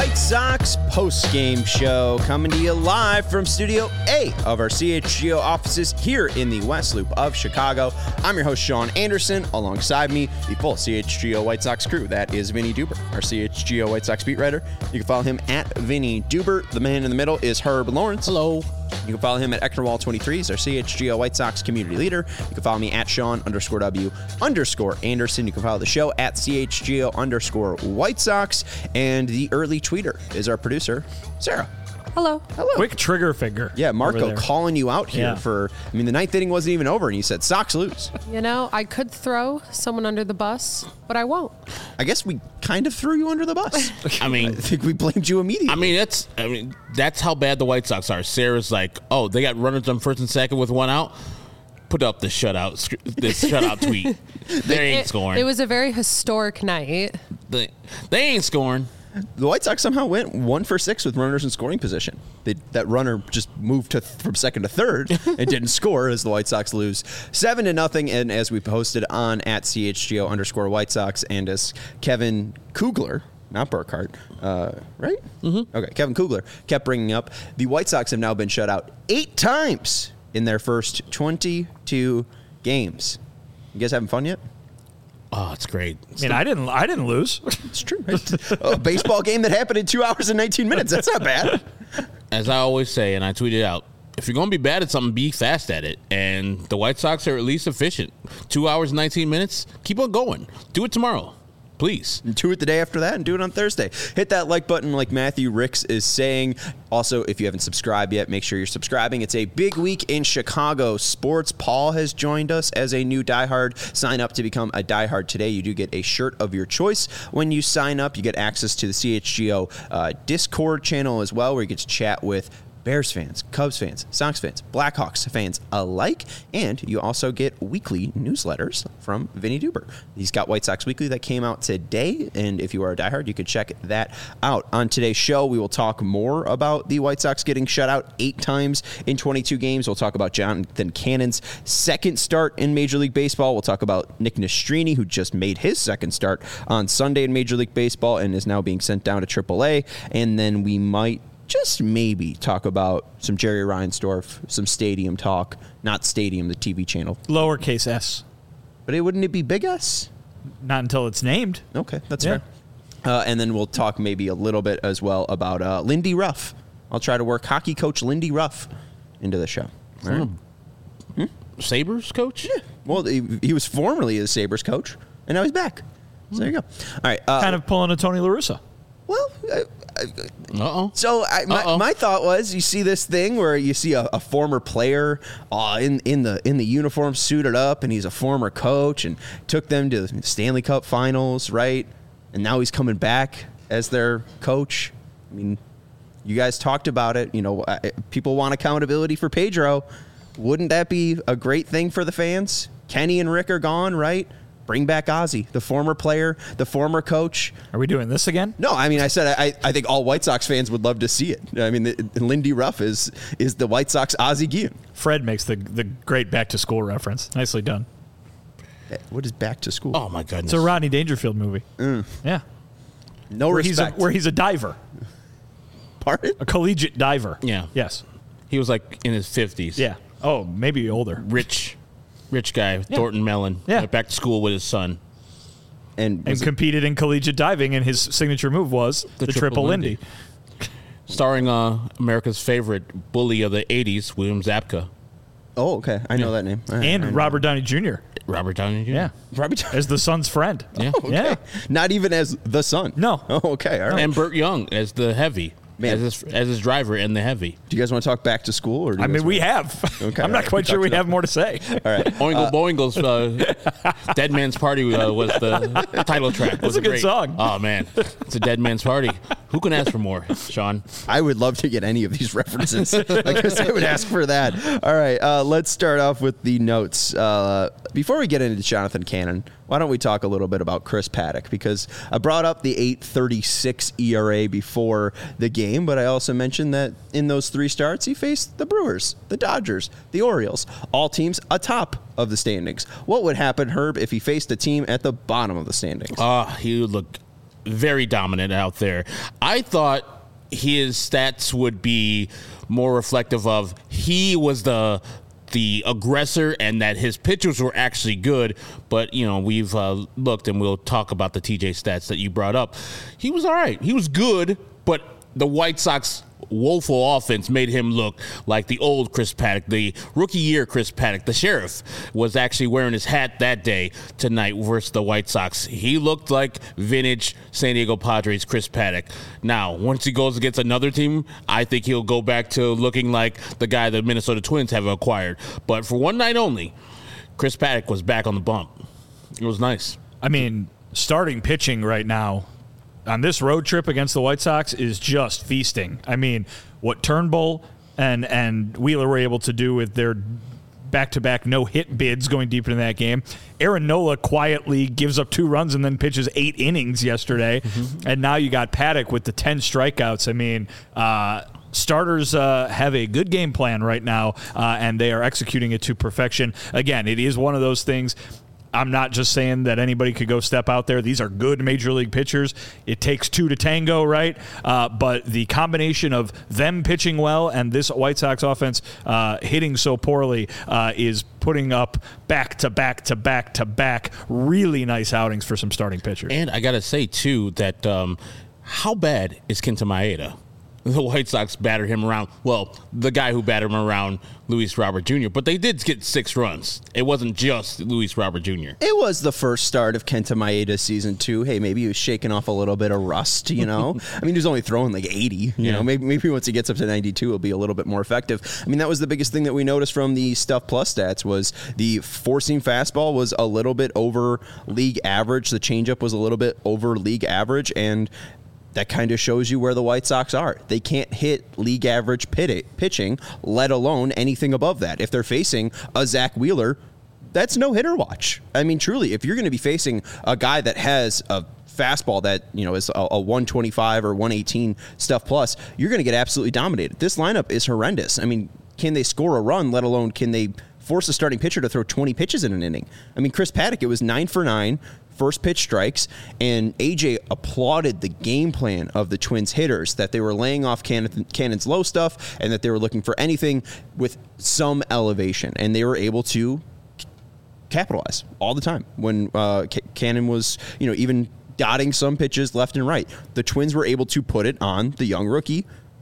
White Sox post-game show coming to you live from Studio A of our CHGO offices here in the West Loop of Chicago. I'm your host, Sean Anderson. Alongside me, the full CHGO White Sox crew. That is Vinny Duber, our CHGO White Sox beat writer. You can follow him at Vinny Duber. The man in the middle is Herb Lawrence. Hello. You can follow him at Ecknerwall23. He's our CHGO White Sox community leader. You can follow me at Sean_W_Anderson. You can follow the show at CHGO_White Sox. And the early tweeter is our producer, Sarah. Hello. Hello. Quick trigger finger. Yeah, Marco calling you out here for, the ninth inning wasn't even over, and you said Sox lose. You know, I could throw someone under the bus, but I won't. I guess we kind of threw you under the bus. I mean, I think we blamed you immediately. That's how bad the White Sox are. Sarah's like, oh, they got runners on first and second with one out. Put up the shutout tweet. They ain't scoring. It was a very historic night. They ain't scoring. The White Sox somehow went 1 for 6 with runners in scoring position. That runner just moved from second to third and didn't score as the White Sox lose 7-0. And as we posted on at CHGO_White Sox, and as Kevin Kugler, not Burkhart, right? Mm-hmm. Okay, Kevin Kugler kept bringing up, the White Sox have now been shut out 8 times in their first 22 games. You guys having fun yet? Oh, it's great. I didn't lose. It's true. A baseball game that happened in 2 hours and 19 minutes. That's not bad. As I always say, and I tweeted out, if you're going to be bad at something, be fast at it. And the White Sox are at least efficient. 2 hours and 19 minutes. Keep on going. Do it tomorrow. Please. And do it the day after that and do it on Thursday. Hit that like button like Matthew Ricks is saying. Also, if you haven't subscribed yet, make sure you're subscribing. It's a big week in Chicago sports. Paul has joined us as a new diehard. Sign up to become a diehard today. You do get a shirt of your choice when you sign up. You get access to the CHGO Discord channel as well, where you get to chat with Bears fans, Cubs fans, Sox fans, Blackhawks fans alike, and you also get weekly newsletters from Vinny Duber. He's got White Sox Weekly that came out today, and if you are a diehard, you could check that out. On today's show, we will talk more about the White Sox getting shut out 8 times in 22 games. We'll talk about Jonathan Cannon's second start in Major League Baseball. We'll talk about Nick Nastrini, who just made his second start on Sunday in Major League Baseball and is now being sent down to AAA, and then we might just maybe talk about some Jerry Reinsdorf, some stadium talk. Not stadium, the TV channel. Lowercase s. But wouldn't it be big S? Not until it's named. Okay, that's fair. And then we'll talk maybe a little bit as well about Lindy Ruff. I'll try to work hockey coach Lindy Ruff into the show. All right. Sabres coach? Yeah. Well, he was formerly the Sabres coach, and now he's back. So there you go. All right. Kind of pulling a Tony La Russa. Well, So my thought was, you see this thing where you see a former player in the uniform suited up, and he's a former coach and took them to the Stanley Cup Finals, right? And now he's coming back as their coach. I mean, you guys talked about it. You know, people want accountability for Pedro. Wouldn't that be a great thing for the fans? Kenny and Rick are gone, right? Bring back Ozzie, the former player, the former coach. Are we doing this again? No, I mean, I said I think all White Sox fans would love to see it. I mean, Lindy Ruff is the White Sox Ozzie Guillen. Fred makes the great back to school reference. Nicely done. What is back to school? Oh, my goodness. It's a Rodney Dangerfield movie. Yeah. No respect. Where he's a diver. Pardon? A collegiate diver. Yeah. Yes. He was like in his 50s. Yeah. Oh, maybe older. Rich guy, Thornton Mellon. Yeah. Went back to school with his son. And competed in collegiate diving, and his signature move was the triple Lindy. Starring America's favorite bully of the 80s, William Zabka. Oh, okay. I know that name. And Robert Downey Jr. Robert Downey Jr. Yeah. Robert Downey. As the son's friend. Yeah. Okay. Yeah. Not even as the son. No. Oh, okay. All right. And Burt Young as the heavy. Man. As his driver and the heavy. Do you guys want to talk back to school? Or we have. Okay, I'm not quite sure we have more to say. All right. Oingo Boingle's Dead Man's Party was the title track. That's a good song. Oh, man. It's a Dead Man's Party. Who can ask for more, Sean? I would love to get any of these references. I guess I would ask for that. All right. Let's start off with the notes. Before we get into Jonathan Cannon, why don't we talk a little bit about Chris Paddack? Because I brought up the 8.36 ERA before the game, but I also mentioned that in those 3 starts, he faced the Brewers, the Dodgers, the Orioles, all teams atop of the standings. What would happen, Herb, if he faced a team at the bottom of the standings? He very dominant out there. I thought his stats would be more reflective of he was the aggressor and that his pitchers were actually good. But, we've looked, and we'll talk about the TJ stats that you brought up. He was all right. He was good, but the White Sox woeful offense made him look like the old Chris Paddack, the rookie year Chris Paddack. The sheriff was actually wearing his hat that day tonight versus the White Sox. He looked like vintage San Diego Padres Chris Paddack. Now, once he goes against another team, I think he'll go back to looking like the guy the Minnesota Twins have acquired. But for one night only, Chris Paddack was back on the bump. It was nice. I mean, starting pitching right now on this road trip against the White Sox is just feasting. I mean, what Turnbull and Wheeler were able to do with their back-to-back no-hit bids going deep into that game. Aaron Nola quietly gives up 2 runs and then pitches 8 innings yesterday. Mm-hmm. And now you got Paddack with the 10 strikeouts. I mean, starters have a good game plan right now, and they are executing it to perfection. Again, it is one of those things. I'm not just saying that anybody could go step out there. These are good major league pitchers. It takes 2 to tango, right? But the combination of them pitching well and this White Sox offense hitting so poorly is putting up back-to-back-to-back-to-back really nice outings for some starting pitchers. And I got to say, too, that how bad is Kenta Maeda? The White Sox battered him around. Well, the guy who battered him around, Luis Robert Jr., but they did get 6 runs. It wasn't just Luis Robert Jr. It was the first start of Kenta Maeda's season 2. Hey, maybe he was shaking off a little bit of rust, I mean, he was only throwing like 80. Maybe once he gets up to 92, he'll be a little bit more effective. I mean, that was the biggest thing that we noticed from the Stuff Plus stats was the four-seam fastball was a little bit over league average. The changeup was a little bit over league average, and that kind of shows you where the White Sox are. They can't hit league average pitching, let alone anything above that. If they're facing a Zach Wheeler, that's no hitter watch. I mean, truly, if you're going to be facing a guy that has a fastball that is a 125 or 118 Stuff Plus, you're going to get absolutely dominated. This lineup is horrendous. I mean, can they score a run, let alone can they force a starting pitcher to throw 20 pitches in an inning? I mean, Chris Paddack, it was 9 for 9. First pitch strikes, and AJ applauded the game plan of the Twins hitters, that they were laying off Cannon's low stuff and that they were looking for anything with some elevation, and they were able to capitalize all the time. When Cannon was, even dotting some pitches left and right, the Twins were able to put it on the young rookie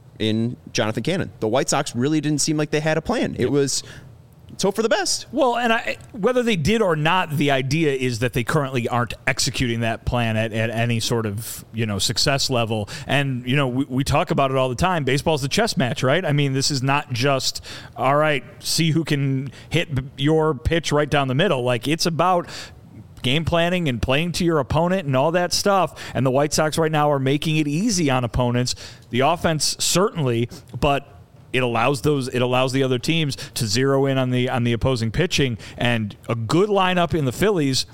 in Jonathan Cannon. The White Sox really didn't seem like they had a plan. It was hope for the best. Well, and whether they did or not, the idea is that they currently aren't executing that plan at any sort of, success level. And, we talk about it all the time. Baseball's a chess match, right? I mean, this is not just, all right, see who can hit your pitch right down the middle. Like, it's about game planning and playing to your opponent and all that stuff. And the White Sox right now are making it easy on opponents. The offense, certainly, but it allows the other teams to zero in on the opposing pitching, and a good lineup in the Phillies,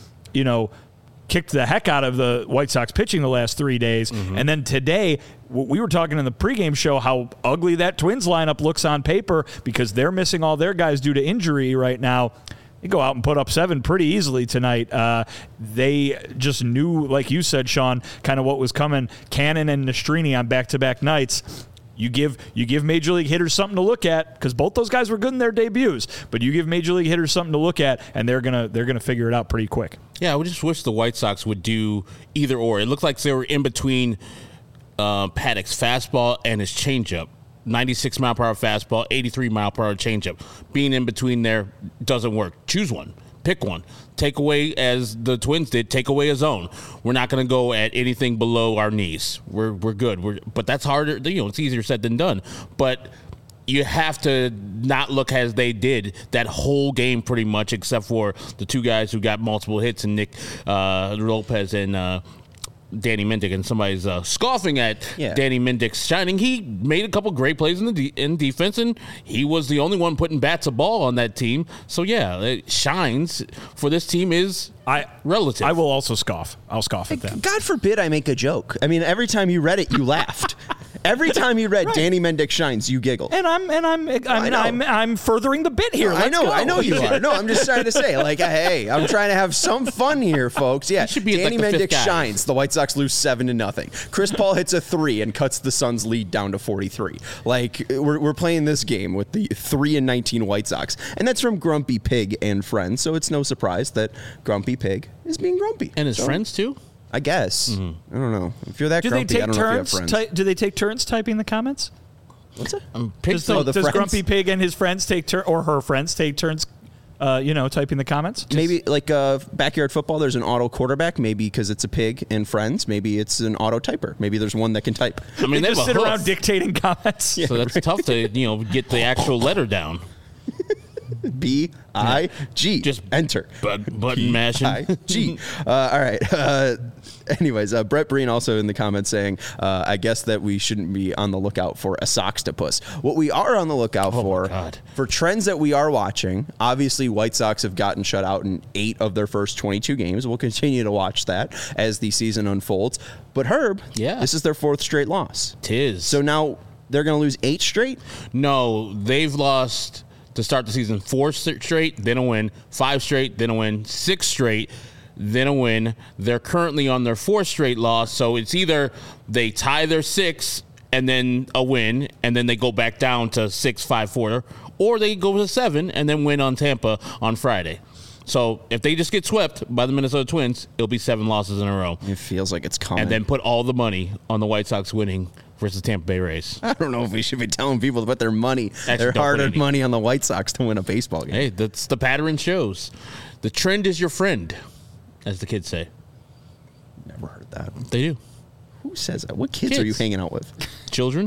kicked the heck out of the White Sox pitching the last 3 days. Mm-hmm. And then today, we were talking in the pregame show how ugly that Twins lineup looks on paper because they're missing all their guys due to injury right now. They go out and put up 7 pretty easily tonight. They just knew, like you said, Sean, kind of what was coming. Cannon and Nastrini on back-to-back nights. You give major league hitters something to look at, because both those guys were good in their debuts. But you give major league hitters something to look at, and they're gonna figure it out pretty quick. Yeah, I would just wish the White Sox would do either or. It looked like they were in between Paddack's fastball and his changeup. 96 mile per hour fastball, 83 mile per hour changeup. Being in between there doesn't work. Choose one. Pick one. Take away, as the Twins did, take away a zone. We're not going to go at anything below our knees. We're good. But that's harder. It's easier said than done. But you have to not look as they did that whole game pretty much, except for the 2 guys who got multiple hits, and Nick Lopez and Danny Mendick, and somebody's scoffing at Danny Mendick's shining. He made a couple great plays in defense, and he was the only one putting bats of ball on that team. So, it shines for this team is relative. I will also scoff. I'll scoff at them. God forbid I make a joke. I mean, every time you read it, you laughed. Every time you read Danny Mendick shines, you giggle. And I'm furthering the bit here. I know you are. No, I'm just trying to say, like, hey, I'm trying to have some fun here, folks. Yeah, Danny Mendick shines. The White Sox lose 7-0. Chris Paul hits a 3 and cuts the Suns' lead down to 43. Like, we're playing this game with the 3-19 White Sox, and that's from Grumpy Pig and friends. So it's no surprise that Grumpy Pig is being grumpy. And his friends too. I guess. I don't know. If you're that grumpy, I don't know if you have friends. Do they take turns typing the comments? What's that? Does Grumpy Pig and his friends take turns, or her friends take turns, typing the comments? Maybe like backyard football, there's an auto quarterback. Maybe because it's a pig and friends. Maybe it's an auto typer. Maybe there's one that can type. I mean, they just sit around dictating comments. So that's tough to get the actual letter down. B-I-G. Just enter. Button mashing. B-I-G. All right. Anyways, Brett Breen also in the comments saying, I guess that we shouldn't be on the lookout for a Soxtopus. What we are on the lookout for trends that we are watching, obviously White Sox have gotten shut out in 8 of their first 22 games. We'll continue to watch that as the season unfolds. But Herb, this is their 4th straight loss. 'Tis. So now they're going to lose 8 straight? No, they've lost to start the season 4 straight, then a win, 5 straight, then a win, 6 straight, then a win. They're currently on their 4th straight loss, so it's either they tie their 6 and then a win, and then they go back down to 6-5-4, or they go to 7 and then win on Tampa on Friday. So if they just get swept by the Minnesota Twins, it'll be 7 losses in a row. It feels like it's coming. And then put all the money on the White Sox winning versus Tampa Bay Rays. I don't know if we should be telling people to put their hard-earned money on the White Sox to win a baseball game. Hey, that's the pattern shows. The trend is your friend, as the kids say. Never heard that. They do. Who says that? What kids are you hanging out with? Children.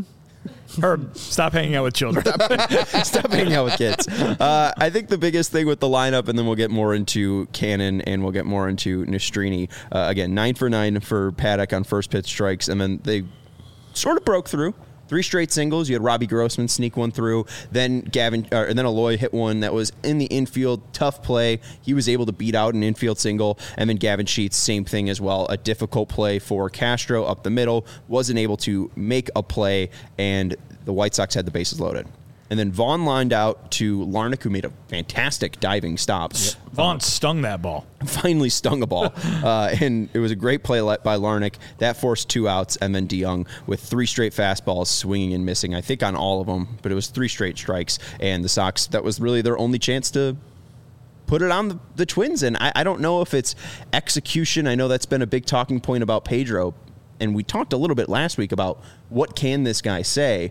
Herb, stop hanging out with children. Stop hanging out with kids. I think the biggest thing with the lineup, and then we'll get more into Cannon and we'll get more into Nastrini. Again, 9 for 9 for Paddock on first pitch strikes, and then they sort of broke through. 3 straight singles. You had Robbie Grossman sneak one through. Then and then Aloy hit one that was in the infield. Tough play. He was able to beat out an infield single. And then Gavin Sheets, same thing as well. A difficult play for Castro up the middle. Wasn't able to make a play, and the White Sox had the bases loaded. And then Vaughn lined out to Larnach, who made a fantastic diving stop. Yep. Vaughn stung that ball. Finally stung a ball. And it was a great play by Larnach. That forced 2 outs, and then DeYoung with 3 straight fastballs, swinging and missing, I think on all of them. But it was 3 straight strikes. And the Sox, that was really their only chance to put it on the Twins. And I don't know if it's execution. I know that's been a big talking point about Pedro. And we talked a little bit last week about what can this guy say.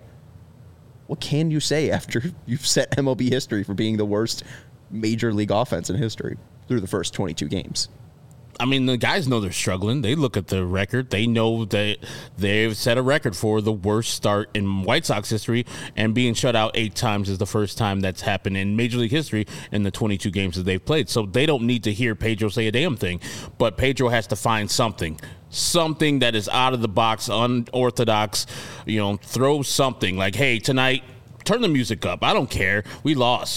What can you say after you've set MLB history for being the worst major league offense in history through the first 22 games? I mean, the guys know they're struggling. They look at the record. They know that they've set a record for the worst start in White Sox history, and being shut out 8 times is the first time that's happened in Major League history in the 22 games that they've played. So they don't need to hear Pedro say a damn thing, but Pedro has to find something that is out of the box, unorthodox, throw something like, hey, tonight, turn the music up. I don't care. We lost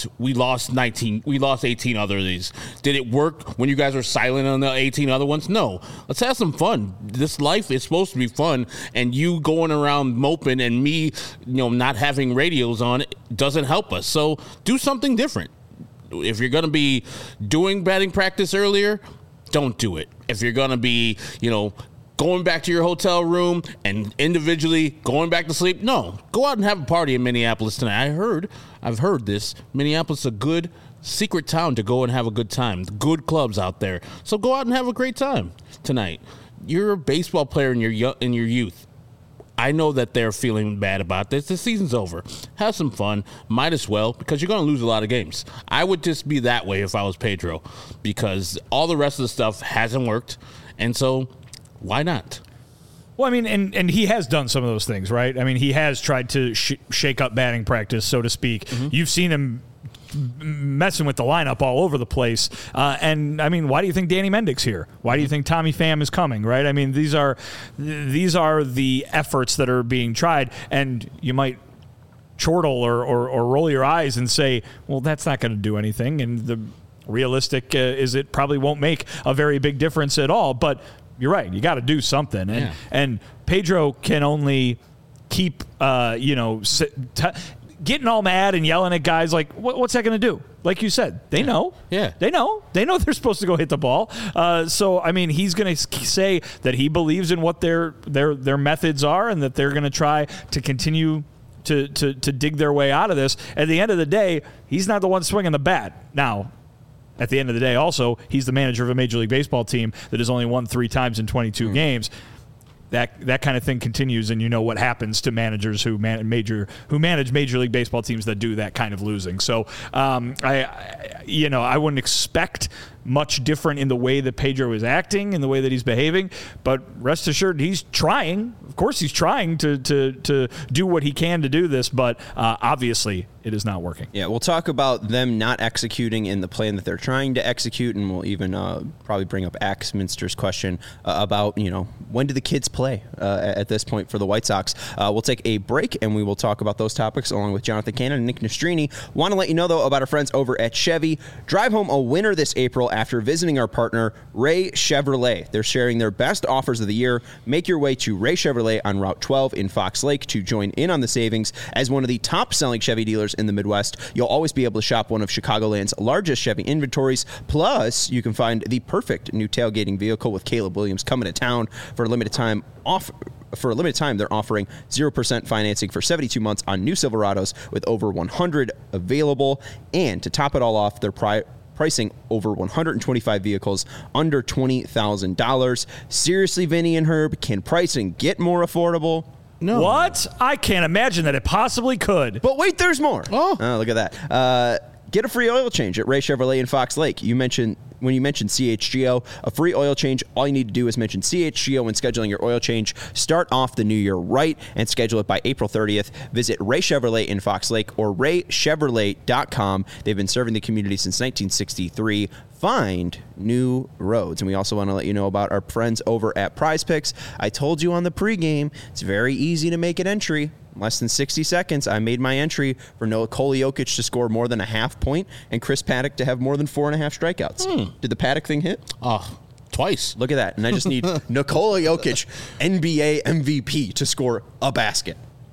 18 other of these. Did it work when you guys were silent on the 18 other ones? No. Let's have some fun. This life is supposed to be fun, and you going around moping and me, not having radios on doesn't help us. So do something different. If you're going to be doing batting practice earlier, don't do it. If you're going to be, going back to your hotel room and individually going back to sleep, no. Go out and have a party in Minneapolis tonight. I've heard this. Minneapolis is a good secret town to go and have a good time. Good clubs out there. So go out and have a great time tonight. You're a baseball player in your youth. I know that they're feeling bad about this. The season's over. Have some fun. Might as well, because you're going to lose a lot of games. I would just be that way if I was Pedro, because all the rest of the stuff hasn't worked. And so why not? Well, I mean, and he has done some of those things, right? I mean, he has tried to shake up batting practice, so to speak. Mm-hmm. You've seen him messing with the lineup all over the place. And I mean, why do you think Danny Mendick's here? Why do you think Tommy Pham is coming, right? I mean, these are the efforts that are being tried, and you might chortle or roll your eyes and say, well, that's not going to do anything. And the realistic is it probably won't make a very big difference at all. But you're right. You got to do something. And Pedro can only keep, getting all mad and yelling at guys, like, what's that going to do? Like you said, they know. Yeah. They know they're supposed to go hit the ball. So, I mean, he's going to say that he believes in what their methods are and that they're going to try to continue to dig their way out of this. At the end of the day, he's not the one swinging the bat. Now, at the end of the day, also, he's the manager of a Major League Baseball team that has only won 3 times in 22 games. That kind of thing continues, and you know what happens to managers who manage Major League Baseball teams that do that kind of losing. So, I wouldn't expect much different in the way that Pedro is acting, in the way that he's behaving, but rest assured, he's trying. Of course, he's trying to do what he can to do this, but obviously, it is not working. Yeah, we'll talk about them not executing in the plan that they're trying to execute, and we'll even probably bring up Axminster's question about, when do the kids play at this point for the White Sox. We'll take a break, and we will talk about those topics along with Jonathan Cannon and Nick Nastrini. Want to let you know, though, about our friends over at Chevy. Drive home a winner this April after visiting our partner, Ray Chevrolet. They're sharing their best offers of the year. Make your way to Ray Chevrolet on Route 12 in Fox Lake to join in on the savings. As one of the top-selling Chevy dealers in the Midwest, you'll always be able to shop one of Chicagoland's largest Chevy inventories. Plus, you can find the perfect new tailgating vehicle with Caleb Williams coming to town for a limited time. For a limited time, they're offering 0% financing for 72 months on new Silverados with over 100 available. And to top it all off, they're pricing over 125 vehicles under $20,000. Seriously, Vinny and Herb, can pricing get more affordable? No. What? I can't imagine that it possibly could. But wait, there's more. Oh, look at that. Get a free oil change at Ray Chevrolet in Fox Lake. When you mention CHGO, a free oil change, all you need to do is mention CHGO when scheduling your oil change. Start off the new year right and schedule it by April 30th. Visit Ray Chevrolet in Fox Lake or raychevrolet.com. They've been serving the community since 1963. Find new roads. And we also want to let you know about our friends over at Prize Picks. I told you on the pregame, it's very easy to make an entry. Less than 60 seconds, I made my entry for Nikola Jokic to score more than a half point and Chris Paddock to have more than 4.5 strikeouts. Did the Paddock thing hit? Twice. Look at that. And I just need Nikola Jokic, NBA MVP, to score a basket.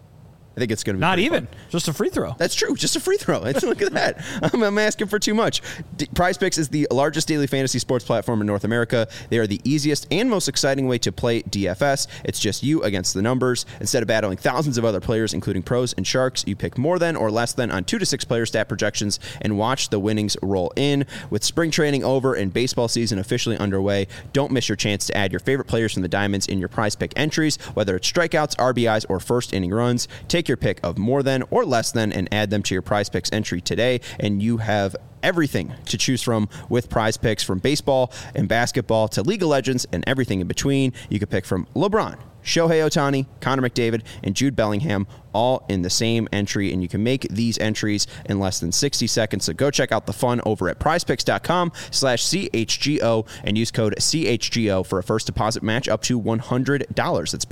I think it's going to be not even fun. Just a free throw. That's true. Just a free throw. Look at that. I'm asking for too much. Prize Picks is the largest daily fantasy sports platform in North America. They are the easiest and most exciting way to play DFS. It's just you against the numbers. Instead of battling thousands of other players, including pros and sharks, you pick more than or less than on 2 to 6 player stat projections and watch the winnings roll in. With spring training over and baseball season officially underway, don't miss your chance to add your favorite players from the Diamonds in your Prize Pick entries, whether it's strikeouts, RBIs, or first inning runs. Take your pick of more than or less than and add them to your Prize Picks entry today, and you have everything to choose from with Prize Picks, from baseball and basketball to League of Legends and everything in between. You can pick from LeBron, Shohei Ohtani, Connor McDavid, and Jude Bellingham, all in the same entry, and you can make these entries in less than 60 seconds. So go check out the fun over at prizepicks.com/CHGO and use code CHGO for a first deposit match up to $100. That's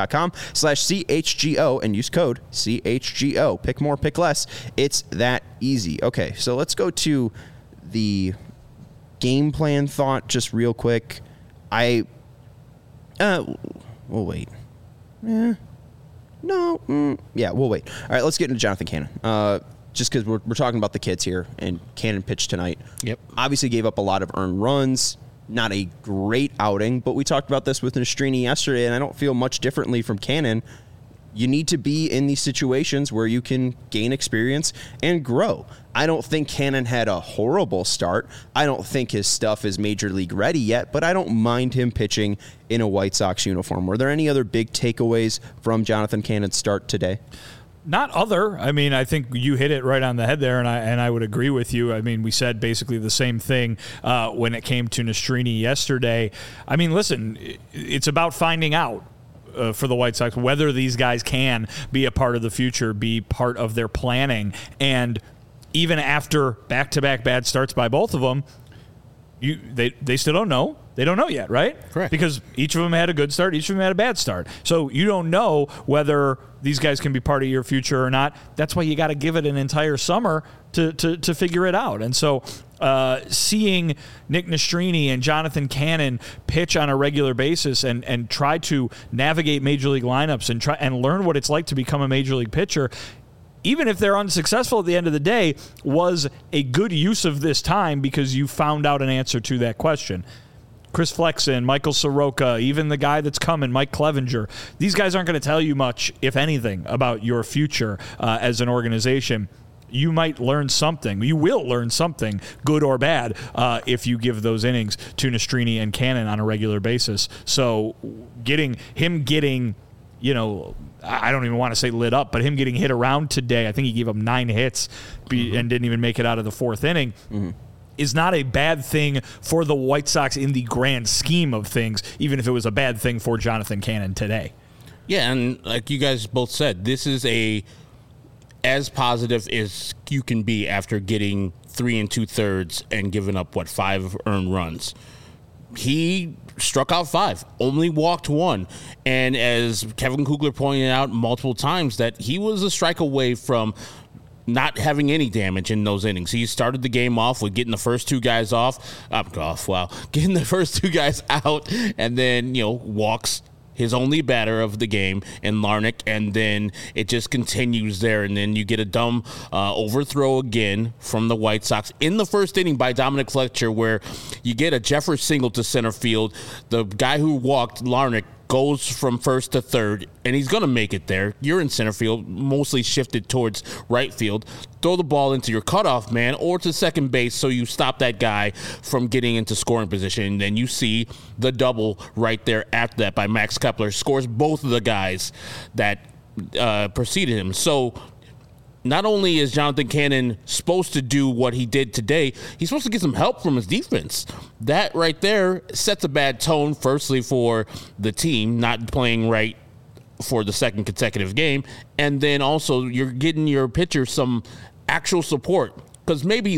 prizepicks.com/CHGO and use code CHGO. Pick more, pick less. It's that easy. Okay, so let's go to the game plan thought just real quick. We'll wait. We'll wait. All right, let's get into Jonathan Cannon. Just because we're talking about the kids here, and Cannon pitched tonight. Yep. Obviously gave up a lot of earned runs. Not a great outing, but we talked about this with Nastrini yesterday, and I don't feel much differently from Cannon. You need to be in these situations where you can gain experience and grow. I don't think Cannon had a horrible start. I don't think his stuff is major league ready yet, but I don't mind him pitching in a White Sox uniform. Were there any other big takeaways from Jonathan Cannon's start today? Not other. I mean, I think you hit it right on the head there, and I would agree with you. I mean, we said basically the same thing when it came to Nastrini yesterday. I mean, listen, it's about finding out for the White Sox whether these guys can be a part of the future, be part of their planning. And even after back-to-back bad starts by both of them, they still don't know. They don't know yet, right? Correct. Because each of them had a good start, each of them had a bad start. So you don't know whether these guys can be part of your future or not. That's why you got to give it an entire summer to figure it out. And so seeing Nick Nastrini and Jonathan Cannon pitch on a regular basis and try to navigate major league lineups and learn what it's like to become a major league pitcher, even if they're unsuccessful at the end of the day, was a good use of this time because you found out an answer to that question. Chris Flexen, Michael Soroka, even the guy that's coming, Mike Clevenger, these guys aren't going to tell you much, if anything, about your future as an organization. You might learn something. You will learn something, good or bad, if you give those innings to Nastrini and Cannon on a regular basis. So getting, you know, I don't even want to say lit up, but him getting hit around today, I think he gave up 9 hits and didn't even make it out of the 4th inning. Mm-hmm. Is not a bad thing for the White Sox in the grand scheme of things, even if it was a bad thing for Jonathan Cannon today. Yeah, and like you guys both said, this is as positive as you can be after getting 3 2/3 and giving up, 5 earned runs. He struck out 5, only walked 1. And as Kevin Kugler pointed out multiple times, that he was a strike away from not having any damage in those innings. He started the game off with getting the first 2 guys getting the first 2 guys out, and then, walks his only batter of the game in Larnach, and then it just continues there, and then you get a dumb overthrow again from the White Sox in the first inning by Dominic Fletcher, where you get a Jeffers single to center field. The guy who walked, Larnach, goes from first to third, and he's going to make it there. You're in center field, mostly shifted towards right field. Throw the ball into your cutoff man or to second base so you stop that guy from getting into scoring position. And then you see the double right there after that by Max Kepler. Scores both of the guys that preceded him. So not only is Jonathan Cannon supposed to do what he did today, he's supposed to get some help from his defense. That right there sets a bad tone, firstly, for the team not playing right for the second consecutive game. And then also you're getting your pitcher some actual support. Because maybe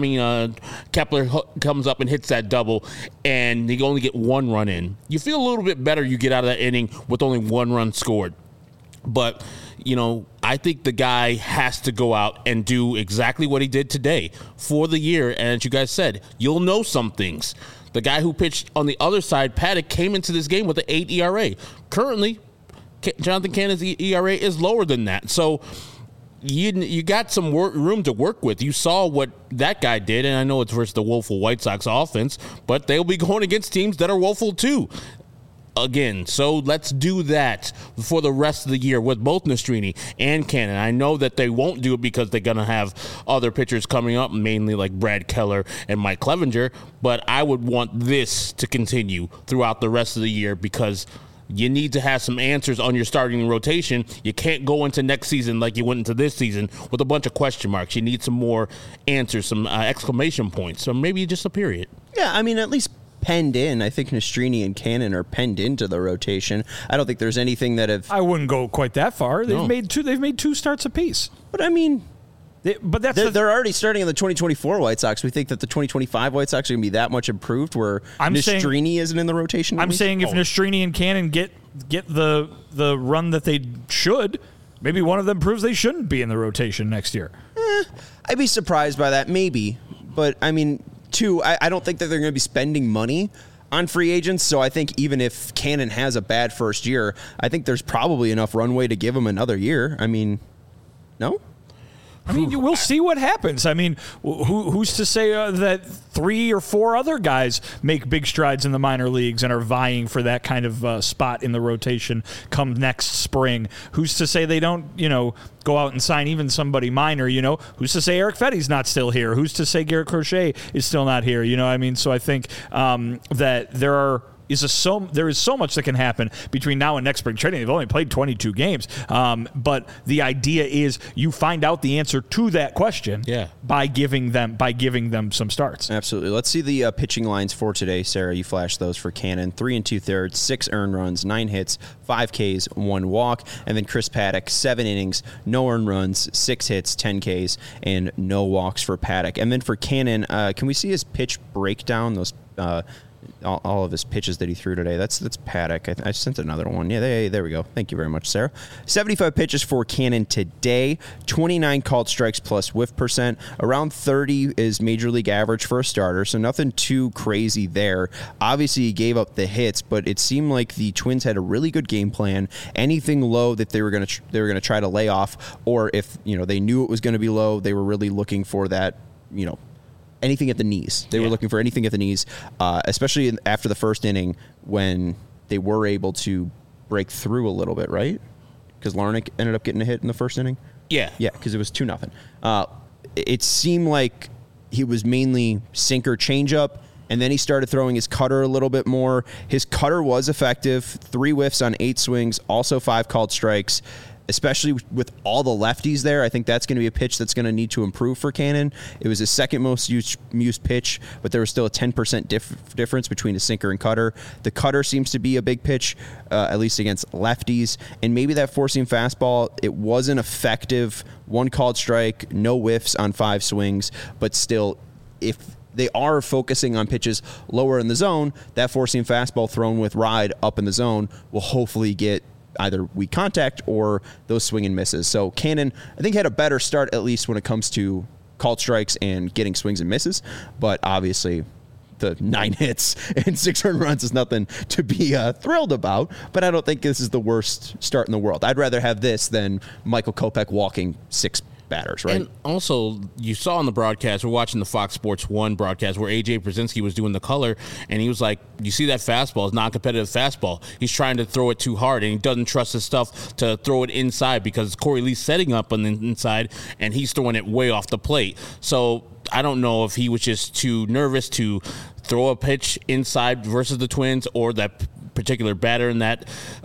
Kepler comes up and hits that double, and you only get 1 run in. You feel a little bit better you get out of that inning with only 1 run scored. But, I think the guy has to go out and do exactly what he did today for the year. And as you guys said, you'll know some things. The guy who pitched on the other side, Paddock, came into this game with an 8 ERA. Currently, Jonathan Cannon's ERA is lower than that. So you got some room to work with. You saw what that guy did, and I know it's versus the woeful White Sox offense, but they'll be going against teams that are woeful too. Again, so let's do that for the rest of the year with both Nastrini and Cannon. I know that they won't do it because they're going to have other pitchers coming up, mainly like Brad Keller and Mike Clevenger, but I would want this to continue throughout the rest of the year because you need to have some answers on your starting rotation. You can't go into next season like you went into this season with a bunch of question marks. You need some more answers, some exclamation points, or maybe just a period. Yeah, at least penned in. I think Nastrini and Cannon are penned into the rotation. I don't think there's anything that have. I wouldn't go quite that far. They've made 2 starts apiece. But they're already starting in the 2024 White Sox. We think that the 2025 White Sox are going to be that much improved where Nastrini isn't in the rotation. I'm saying if Nastrini and Cannon get the run that they should, maybe one of them proves they shouldn't be in the rotation next year. I'd be surprised by that, maybe. But Two, I don't think that they're going to be spending money on free agents, so I think even if Cannon has a bad first year, I think there's probably enough runway to give him another year. No? We'll see what happens. Who's to say that 3 or 4 other guys make big strides in the minor leagues and are vying for that kind of spot in the rotation come next spring? Who's to say they don't, go out and sign even somebody minor? Who's to say Eric Fetty's not still here? Who's to say Garrett Crochet is still not here? So I think that there are there is so much that can happen between now and next spring training. They've only played 22 games, but the idea is you find out the answer to that question by giving them some starts. Absolutely. Let's see the pitching lines for today. Sarah, you flashed those for Cannon. 3 2/3, 6 earned runs, 9 hits, 5 Ks, 1 walk. And then Chris Paddack, 7 innings, no earned runs, 6 hits, 10 Ks, and no walks for Paddack. And then for Cannon, can we see his pitch breakdown? Those all of his pitches that he threw today. That's Paddack. I sent another one. Yeah, there we go. Thank you very much, Sarah. 75 pitches for Cannon today. 29 called strikes plus whiff percent. Around 30 is major league average for a starter, so nothing too crazy there. Obviously, he gave up the hits, but it seemed like the Twins had a really good game plan. Anything low that they were going to try to lay off, or if they knew it was going to be low, they were really looking for that. Anything at the knees. They were looking for anything at the knees, especially after the first inning when they were able to break through a little bit, right? Because Larnach ended up getting a hit in the first inning. Yeah, because it was 2-0. It seemed like he was mainly sinker changeup, and then he started throwing his cutter a little bit more. His cutter was effective. 3 whiffs on 8 swings, also 5 called strikes. Especially with all the lefties there, I think that's going to be a pitch that's going to need to improve for Cannon. It was his second most used pitch, but there was still a 10% difference between his sinker and cutter. The cutter seems to be a big pitch, at least against lefties. And maybe that four-seam fastball, it wasn't effective. 1 called strike, no whiffs on 5 swings, but still, if they are focusing on pitches lower in the zone, that four-seam fastball thrown with ride up in the zone will hopefully get either weak contact or those swing and misses. So Cannon, I think, had a better start, at least when it comes to called strikes and getting swings and misses. But obviously, the 9 hits and 6 earned runs is nothing to be thrilled about. But I don't think this is the worst start in the world. I'd rather have this than Michael Kopech walking 6 batters, right? And also, you saw on the broadcast, we're watching the Fox Sports 1 broadcast where A.J. Brzezinski was doing the color, and he was like, you see that fastball, it's non-competitive fastball. He's trying to throw it too hard, and he doesn't trust his stuff to throw it inside because Corey Lee's setting up on the inside, and he's throwing it way off the plate. So I don't know if he was just too nervous to throw a pitch inside versus the Twins or that particular batter in that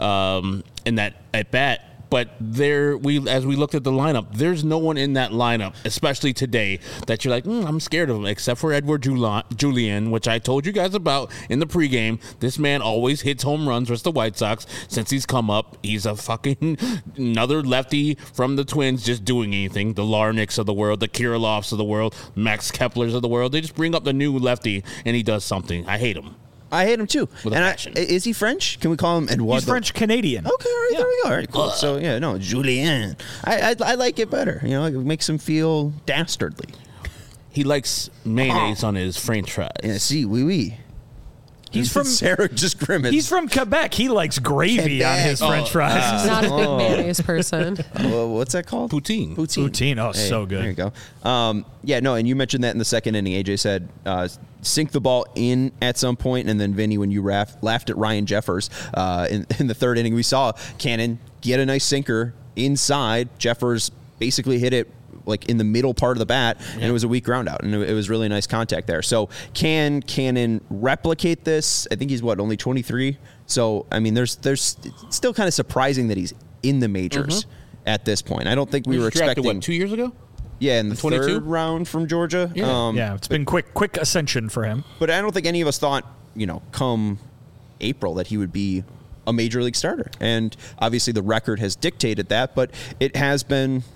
at bat. But as we looked at the lineup, there's no one in that lineup, especially today, that you're like, I'm scared of him, except for Edward Julien, which I told you guys about in the pregame. This man always hits home runs versus the White Sox since he's come up. He's a fucking another lefty from the Twins just doing anything. The Larnachs of the world, the Kirilloffs of the world, Max Keplers of the world. They just bring up the new lefty, and he does something. I hate him. I hate him too. Is he French? Can we call him Edouard? He's French Canadian. Okay, all right, there we go. All right, cool. So Julien. I like it better. It makes him feel dastardly. He likes mayonnaise on his French fries. Yeah, si, oui. He's from Sarah just grimaced. He's from Quebec. He likes gravy on his French fries. He's not a big mayonnaise person. What's that called? Poutine. Poutine. Oh, hey, so good. There you go. And you mentioned that in the second inning. AJ said sink the ball in at some point, and then Vinny, when you laughed at Ryan Jeffers in the third inning, we saw Cannon get a nice sinker inside. Jeffers basically hit it like in the middle part of the bat, and it was a weak ground out, and it was really nice contact there. So can Cannon replicate this? I think he's only 23. So I mean, there's it's still kind of surprising that he's in the majors at this point. I don't think we were expecting. What, 2 years ago? Yeah, in the 22? Third round from Georgia. Yeah, it's been quick ascension for him. But I don't think any of us thought, come April that he would be a major league starter. And obviously the record has dictated that, but it has been,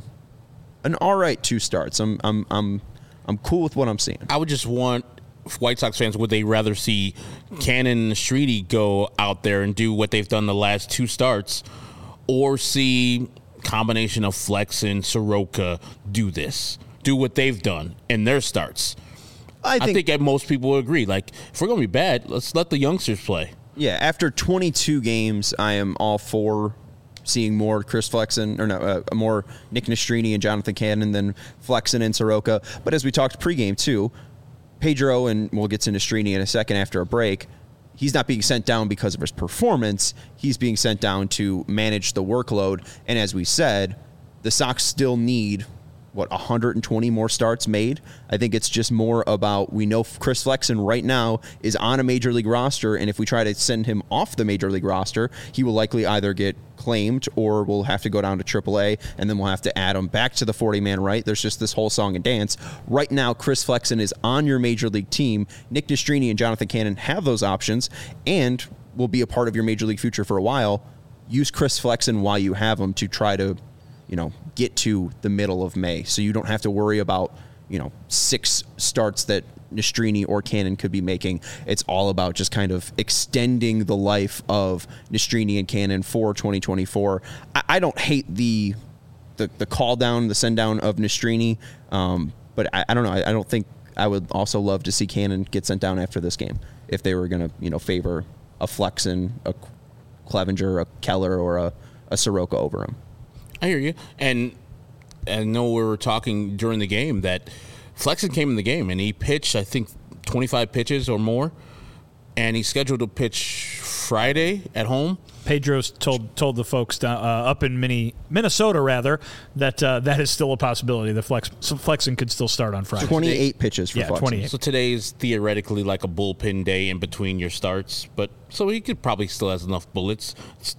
an all right 2 starts. I'm cool with what I'm seeing. I would just want White Sox fans, would they rather see Cannon and Streety go out there and do what they've done the last 2 starts, or see combination of Flex and Soroka do what they've done in their starts? I think most people would agree. Like, if we're going to be bad, let's let the youngsters play. Yeah, after 22 games, I am all for seeing more Chris Flexen, more Nick Nastrini and Jonathan Cannon than Flexen and Soroka. But as we talked pregame too, Pedro, and we'll get to Nastrini in a second after a break, he's not being sent down because of his performance. He's being sent down to manage the workload. And as we said, the Sox still need 120 more starts made. I think it's just more about, we know Chris Flexen right now is on a major league roster, and if we try to send him off the major league roster, he will likely either get claimed or we'll have to go down to AAA, and then we'll have to add him back to the 40-man right. There's just this whole song and dance. Right now, Chris Flexen is on your major league team. Nick Nastrini and Jonathan Cannon have those options and will be a part of your major league future for a while. Use Chris Flexen while you have him to try to get to the middle of May, so you don't have to worry about 6 starts that Nastrini or Cannon could be making. It's all about just kind of extending the life of Nastrini and Cannon for 2024. I don't hate the call down, the send down of Nastrini, but I don't know. I don't think I would also love to see Cannon get sent down after this game if they were going to favor a Flexen, a Clevenger, a Keller, or a Soroka over him. I hear you. And I know we were talking during the game that Flexen came in the game and he pitched, I think, 25 pitches or more. And he's scheduled to pitch Friday at home. Pedro's told the folks up in Minnesota, rather, that that is still a possibility. The Flexen could still start on Friday. 28 pitches for Flexen. 28. So today's theoretically like a bullpen day in between your starts. But so he could probably still has enough bullets. It's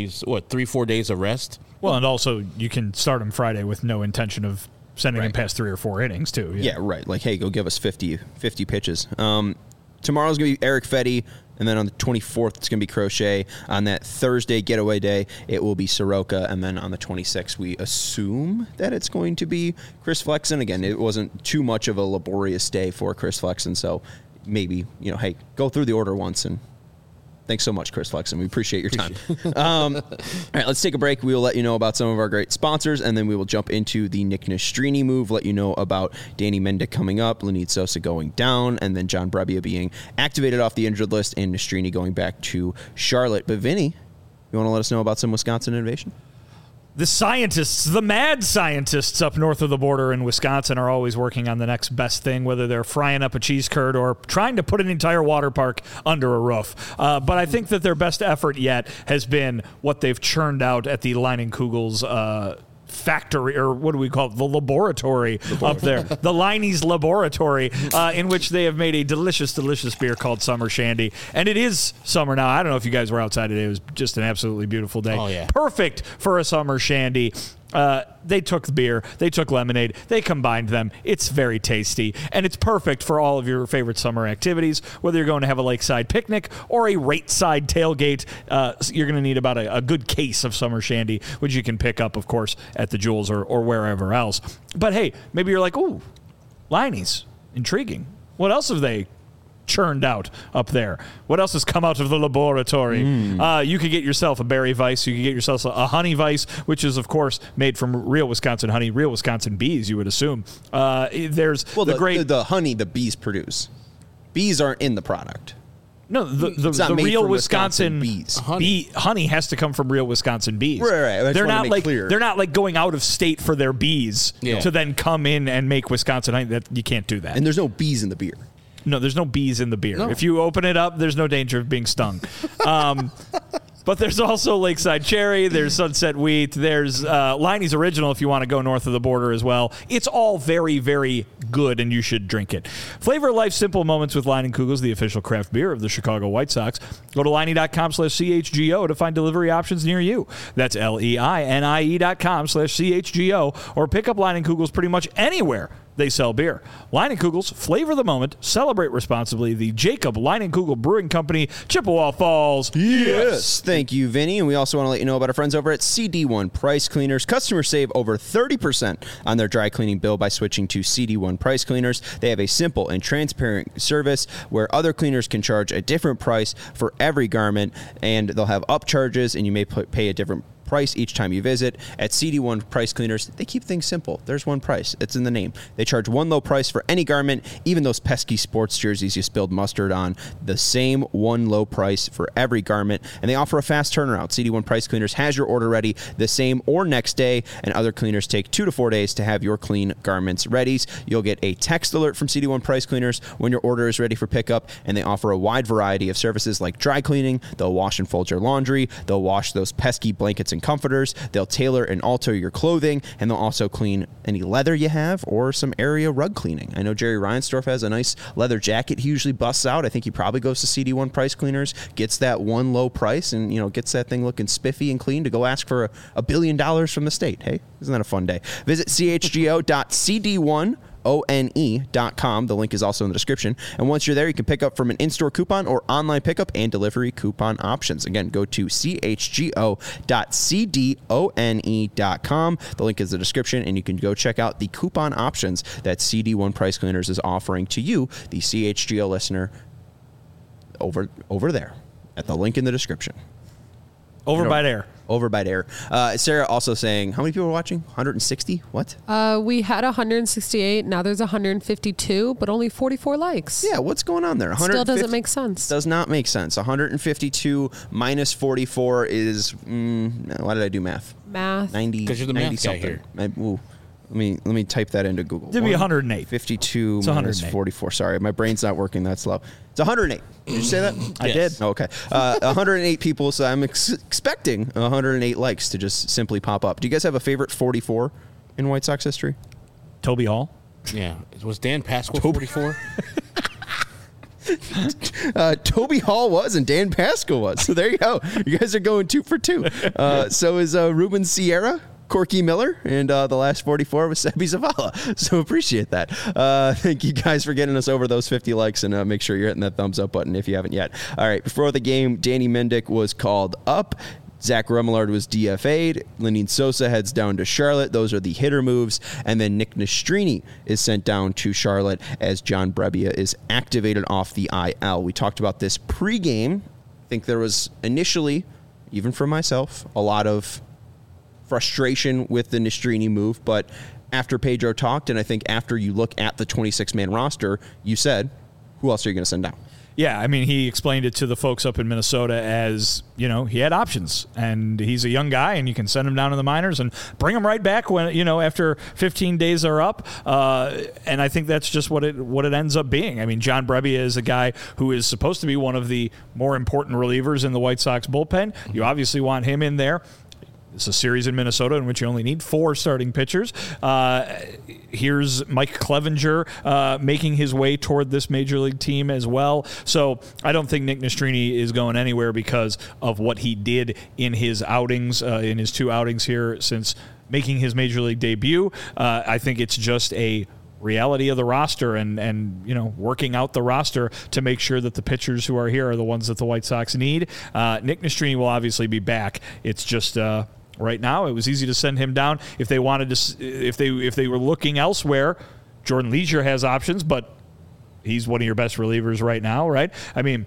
3-4 days of rest. Well, and also you can start him Friday with no intention of sending him past 3 or 4 innings, too. Yeah, right. Like, hey, go give us 50 pitches. Tomorrow's going to be Eric Fetty, and then on the 24th, it's going to be Crochet. On that Thursday getaway day, it will be Soroka, and then on the 26th, we assume that it's going to be Chris Flexen. Again, it wasn't too much of a laborious day for Chris Flexen, so maybe, hey, go through the order once and thanks so much, Chris Flexen. We appreciate your time. All right, let's take a break. We will let you know about some of our great sponsors, and then we will jump into the Nick Nastrini move, let you know about Danny Mendick coming up, Lenit Sosa going down, and then John Brebbia being activated off the injured list, and Nastrini going back to Charlotte. But Vinny, you want to let us know about some Wisconsin innovation? The scientists, the mad scientists up north of the border in Wisconsin are always working on the next best thing, whether they're frying up a cheese curd or trying to put an entire water park under a roof. But I think that their best effort yet has been what they've churned out at the Leininkugel's factory, or what do we call it? The laboratory up there. The Leinie's Laboratory, in which they have made a delicious, delicious beer called Summer Shandy. And it is summer now. I don't know if you guys were outside today. It was just an absolutely beautiful day. Oh, yeah. Perfect for a summer shandy. They took the beer, they took lemonade, they combined them. It's very tasty, and it's perfect for all of your favorite summer activities, whether you're going to have a lakeside picnic or a rate-side tailgate. You're going to need about a good case of summer shandy, which you can pick up, of course, at the Jewels or wherever else. But hey, maybe you're like, ooh, Leinie's, intriguing. What else have they churned out up there? What else has come out of the laboratory? You could get yourself a berry Weiss. You could get yourself a honey Weiss, which is, of course, made from real Wisconsin honey, real Wisconsin bees, you would assume. There's the honey the bees produce. Bees aren't in the product. No, the real Wisconsin bees. Honey has to come from real Wisconsin bees. Right. They're not like they're not like going out of state for their bees to then come in and make Wisconsin honey. That you can't do that. And there's no bees in the beer. No, there's no bees in the beer. No. If you open it up, there's no danger of being stung. But there's also Lakeside Cherry. There's Sunset Wheat. There's Leinie's Original if you want to go north of the border as well. It's all very, very good, and you should drink it. Flavor life's simple moments with Leininkugel's, the official craft beer of the Chicago White Sox. Go to Leinie.com/CHGO to find delivery options near you. That's LEINIE.com/CHGO, or pick up Leininkugel's pretty much anywhere they sell beer. Leininkugel's, flavor the moment, celebrate responsibly. The Jacob Leinenkugel Brewing Company, Chippewa Falls. Yes. Thank you, Vinny. And we also want to let you know about our friends over at CD1 Price Cleaners. Customers save over 30% on their dry cleaning bill by switching to CD1 Price Cleaners. They have a simple and transparent service where other cleaners can charge a different price for every garment, and they'll have upcharges, and you may pay a different price each time you visit. At CD1 Price Cleaners, they keep things simple. There's one price. It's in the name. They charge one low price for any garment, even those pesky sports jerseys you spilled mustard on. The same one low price for every garment, and they offer a fast turnaround. CD1 Price Cleaners has your order ready the same or next day, and other cleaners take 2 to 4 days to have your clean garments ready. You'll get a text alert from CD1 Price Cleaners when your order is ready for pickup, and they offer a wide variety of services like dry cleaning. They'll wash and fold your laundry. They'll wash those pesky blankets and comforters. They'll tailor and alter your clothing, and they'll also clean any leather you have or some area rug cleaning. I know Jerry Reinsdorf has a nice leather jacket he usually busts out. I think he probably goes to CD1 Price Cleaners, gets that one low price, and gets that thing looking spiffy and clean to go ask for $1 billion from the state. Hey, isn't that a fun day? Visit chgo.cd1one.com. The link is also in the description. And once you're there, you can pick up from an in-store coupon or online pickup and delivery coupon options. Again, go to chgo.cdone.com. The link is in the description, and you can go check out the coupon options that CD1 Price Cleaners is offering to you, the CHGO listener, over there at the link in the description. Over by there. Sarah also saying, how many people are watching? 160? What? We had 168. Now there's 152, but only 44 likes. Yeah, what's going on there? Still doesn't make sense. Does not make sense. 152 minus 44 is, why did I do math? 90. Because you're the math guy something. here. Let me type that into Google. It'd be 108. 52 it's minus 108. 44. Sorry, my brain's not working that slow. It's 108. Did you say that? I Yes. did. Oh, okay. 108 people, so I'm expecting 108 likes to just simply pop up. Do you guys have a favorite 44 in White Sox history? Toby Hall. Yeah. Was Dan Pasquale 44? Toby Hall was, and Dan Pascal was. So there you go. You guys are going 2 for 2. So is Ruben Sierra, Corky Miller, and the last 44 was Sebi Zavala. So appreciate that. Thank you guys for getting us over those 50 likes, and make sure you're hitting that thumbs up button if you haven't yet. All right, before the game, Danny Mendick was called up. Zach Remillard was DFA'd. Lenyn Sosa heads down to Charlotte. Those are the hitter moves. And then Nick Nastrini is sent down to Charlotte as John Brebbia is activated off the IL. We talked about this pregame. I think there was initially, even for myself, a lot of frustration with the Nastrini move. But after Pedro talked, and I think after you look at the 26-man roster, you said, who else are you going to send down? Yeah, I mean, he explained it to the folks up in Minnesota as, he had options, and he's a young guy, and you can send him down to the minors and bring him right back when, after 15 days are up. And I think that's just what it ends up being. I mean, John Brebbia is a guy who is supposed to be one of the more important relievers in the White Sox bullpen. You obviously want him in there. It's a series in Minnesota in which you only need 4 starting pitchers. Here's Mike Clevenger making his way toward this major league team as well. So I don't think Nick Nastrini is going anywhere because of what he did in his outings, in his 2 outings here since making his major league debut. I think it's just a reality of the roster and working out the roster to make sure that the pitchers who are here are the ones that the White Sox need. Nick Nastrini will obviously be back. It's just right now, it was easy to send him down. If they wanted to, if they were looking elsewhere, Jordan Leisure has options, but he's one of your best relievers right now, right? I mean,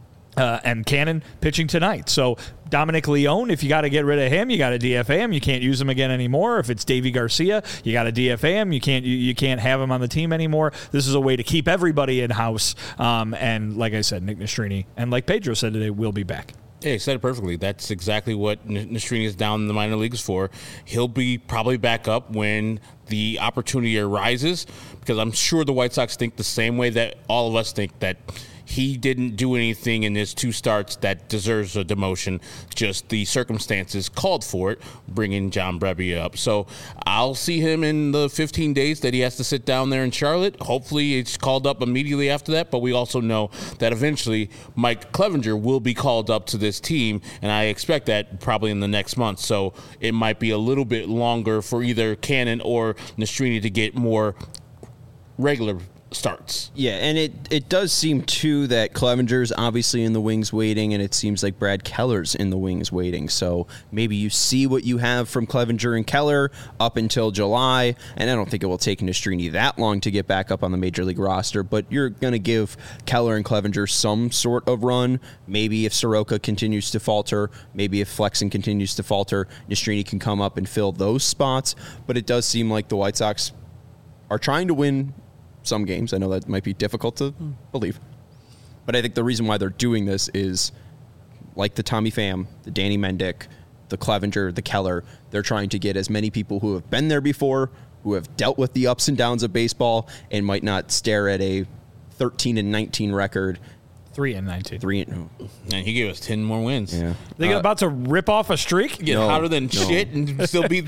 and Cannon pitching tonight. So Dominic Leone, if you got to get rid of him, you got to DFA him. You can't use him again anymore. If it's Davy Garcia, you got to DFA him. You can't have him on the team anymore. This is a way to keep everybody in house. And like I said, Nick Nastrini, and like Pedro said today, will be back. Yeah, he said it perfectly. That's exactly what Nastrini is down in the minor leagues for. He'll be probably back up when the opportunity arises, because I'm sure the White Sox think the same way that all of us think, that he didn't do anything in his 2 starts that deserves a demotion. Just the circumstances called for it, bringing John Brebbia up. So I'll see him in the 15 days that he has to sit down there in Charlotte. Hopefully it's called up immediately after that, but we also know that eventually Mike Clevenger will be called up to this team, and I expect that probably in the next month. So it might be a little bit longer for either Cannon or Nastrini to get more regular starts. Yeah, and it does seem, too, that Clevenger's obviously in the wings waiting, and it seems like Brad Keller's in the wings waiting. So maybe you see what you have from Clevenger and Keller up until July, and I don't think it will take Nastrini that long to get back up on the Major League roster, but you're going to give Keller and Clevenger some sort of run. Maybe if Soroka continues to falter, maybe if Flexen continues to falter, Nastrini can come up and fill those spots. But it does seem like the White Sox are trying to win some games. I know that might be difficult to believe, but I think the reason why they're doing this is like the Tommy Pham, the Danny Mendick, the Clevenger, the Keller. They're trying to get as many people who have been there before, who have dealt with the ups and downs of baseball and might not stare at a 13-19 record 3-19. 3-19. And he gave us 10 more wins. Yeah. They about to rip off a streak? Get hotter than shit and still be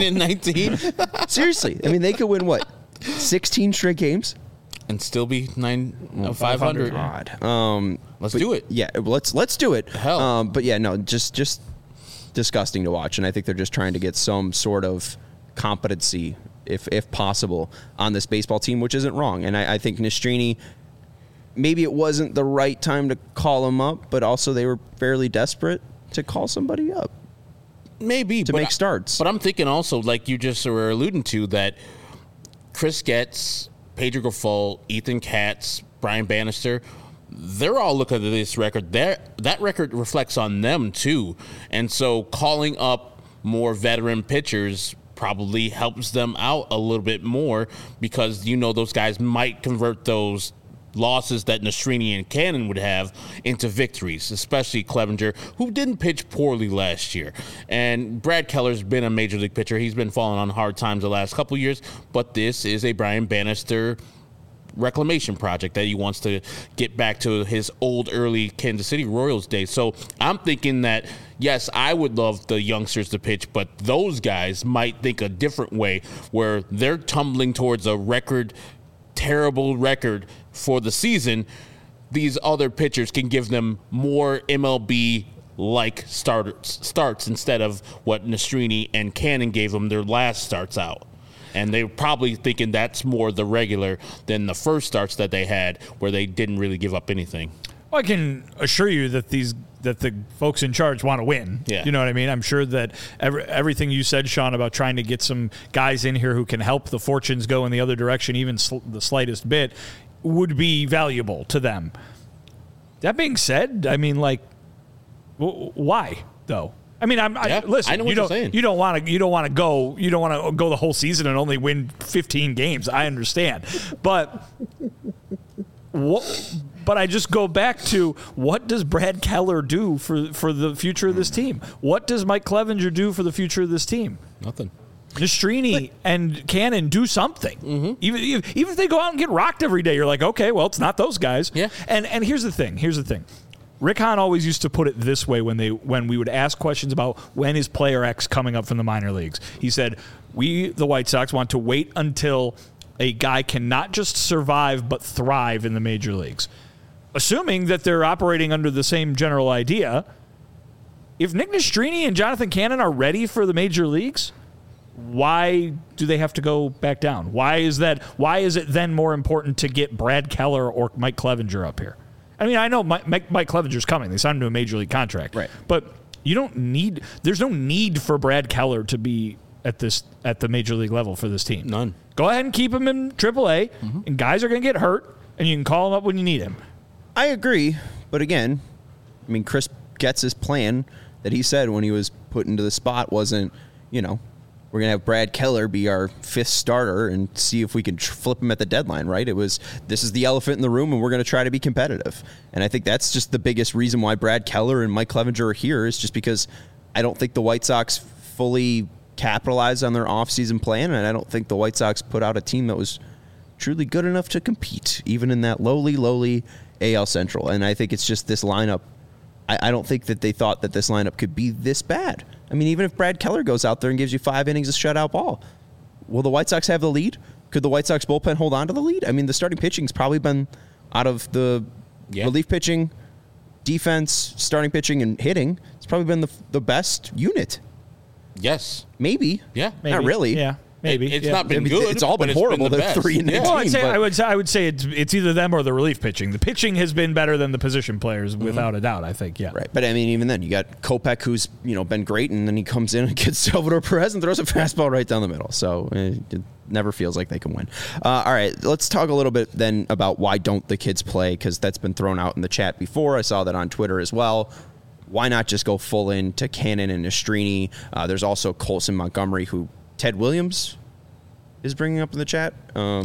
13-19. Seriously. I mean, they could win, what, 16 straight games? And still be 500. God. Let's do it. Yeah, let's do it. Hell. But yeah, no, just disgusting to watch. And I think they're just trying to get some sort of competency, if possible, on this baseball team, which isn't wrong. And I think Nastrini, maybe it wasn't the right time to call him up, but also they were fairly desperate to call somebody up. Maybe. To make starts. But I'm thinking also, like you just were alluding to, that Chris Getz, Pedro Grifol, Ethan Katz, Brian Bannister, they're all looking at this record. That record reflects on them, too. And so calling up more veteran pitchers probably helps them out a little bit more because, those guys might convert those losses that Nastrini and Cannon would have into victories, especially Clevenger, who didn't pitch poorly last year. And Brad Keller's been a major league pitcher. He's been falling on hard times the last couple of years, but this is a Brian Bannister reclamation project that he wants to get back to his old early Kansas City Royals days. So I'm thinking that, yes, I would love the youngsters to pitch, but those guys might think a different way where they're tumbling towards a terrible record for the season. These other pitchers can give them more MLB-like starts instead of what Nastrini and Cannon gave them their last starts out. And they're probably thinking that's more the regular than the first starts that they had where they didn't really give up anything. Well, I can assure you that the folks in charge want to win. Yeah. You know what I mean? I'm sure that everything you said, Sean, about trying to get some guys in here who can help the fortunes go in the other direction, even the slightest bit, would be valuable to them. That being said, I mean, like, why though? I mean, listen. I know what you're saying. You don't want to go the whole season and only win 15 games. I understand, but But I just go back to, what does Brad Keller do for the future of this team? What does Mike Clevenger do for the future of this team? Nothing. Nastrini and Cannon do something. Mm-hmm. Even if they go out and get rocked every day, you're like, okay, well, it's not those guys. Yeah. And here's the thing. Rick Hahn always used to put it this way when we would ask questions about when is player X coming up from the minor leagues. He said, we, the White Sox, want to wait until a guy can not just survive but thrive in the major leagues. Assuming that they're operating under the same general idea, if Nick Nastrini and Jonathan Cannon are ready for the major leagues, why do they have to go back down? Why is it then more important to get Brad Keller or Mike Clevenger up here? I mean, I know Mike Clevenger's coming. They signed him to a major league contract. Right. But there's no need for Brad Keller to be at the major league level for this team. None. Go ahead and keep him in AAA, and guys are going to get hurt, and you can call him up when you need him. I agree, but again, I mean, Chris Getz's plan that he said when he was put into the spot wasn't, we're going to have Brad Keller be our fifth starter and see if we can flip him at the deadline, right? It was, this is the elephant in the room, and we're going to try to be competitive. And I think that's just the biggest reason why Brad Keller and Mike Clevenger are here, is just because I don't think the White Sox fully capitalized on their offseason plan, and I don't think the White Sox put out a team that was truly good enough to compete, even in that lowly AL Central. And I think it's just this lineup. I don't think that they thought that this lineup could be this bad. I mean, even if Brad Keller goes out there and gives you 5 innings of shutout ball, will the White Sox have the lead? Could the White Sox bullpen hold on to the lead? I mean, the starting pitching's probably been, out of the relief pitching, defense, starting pitching, and hitting, it's probably been the best unit. Yes. Maybe. Yeah. Maybe. Not really. Yeah. Maybe. It's not been good. It's all been horrible. The They're 3-19. Well, I would say it's either them or the relief pitching. The pitching has been better than the position players, without a doubt, I think, yeah. Right. But, I mean, even then, you got Kopech, who's, been great, and then he comes in and gets Salvador Perez and throws a fastball right down the middle. So it never feels like they can win. All right, let's talk a little bit then about why don't the kids play, because that's been thrown out in the chat before. I saw that on Twitter as well. Why not just go full in to Cannon and Nastrini? There's also Colson Montgomery, who Ted Williams is bringing up in the chat.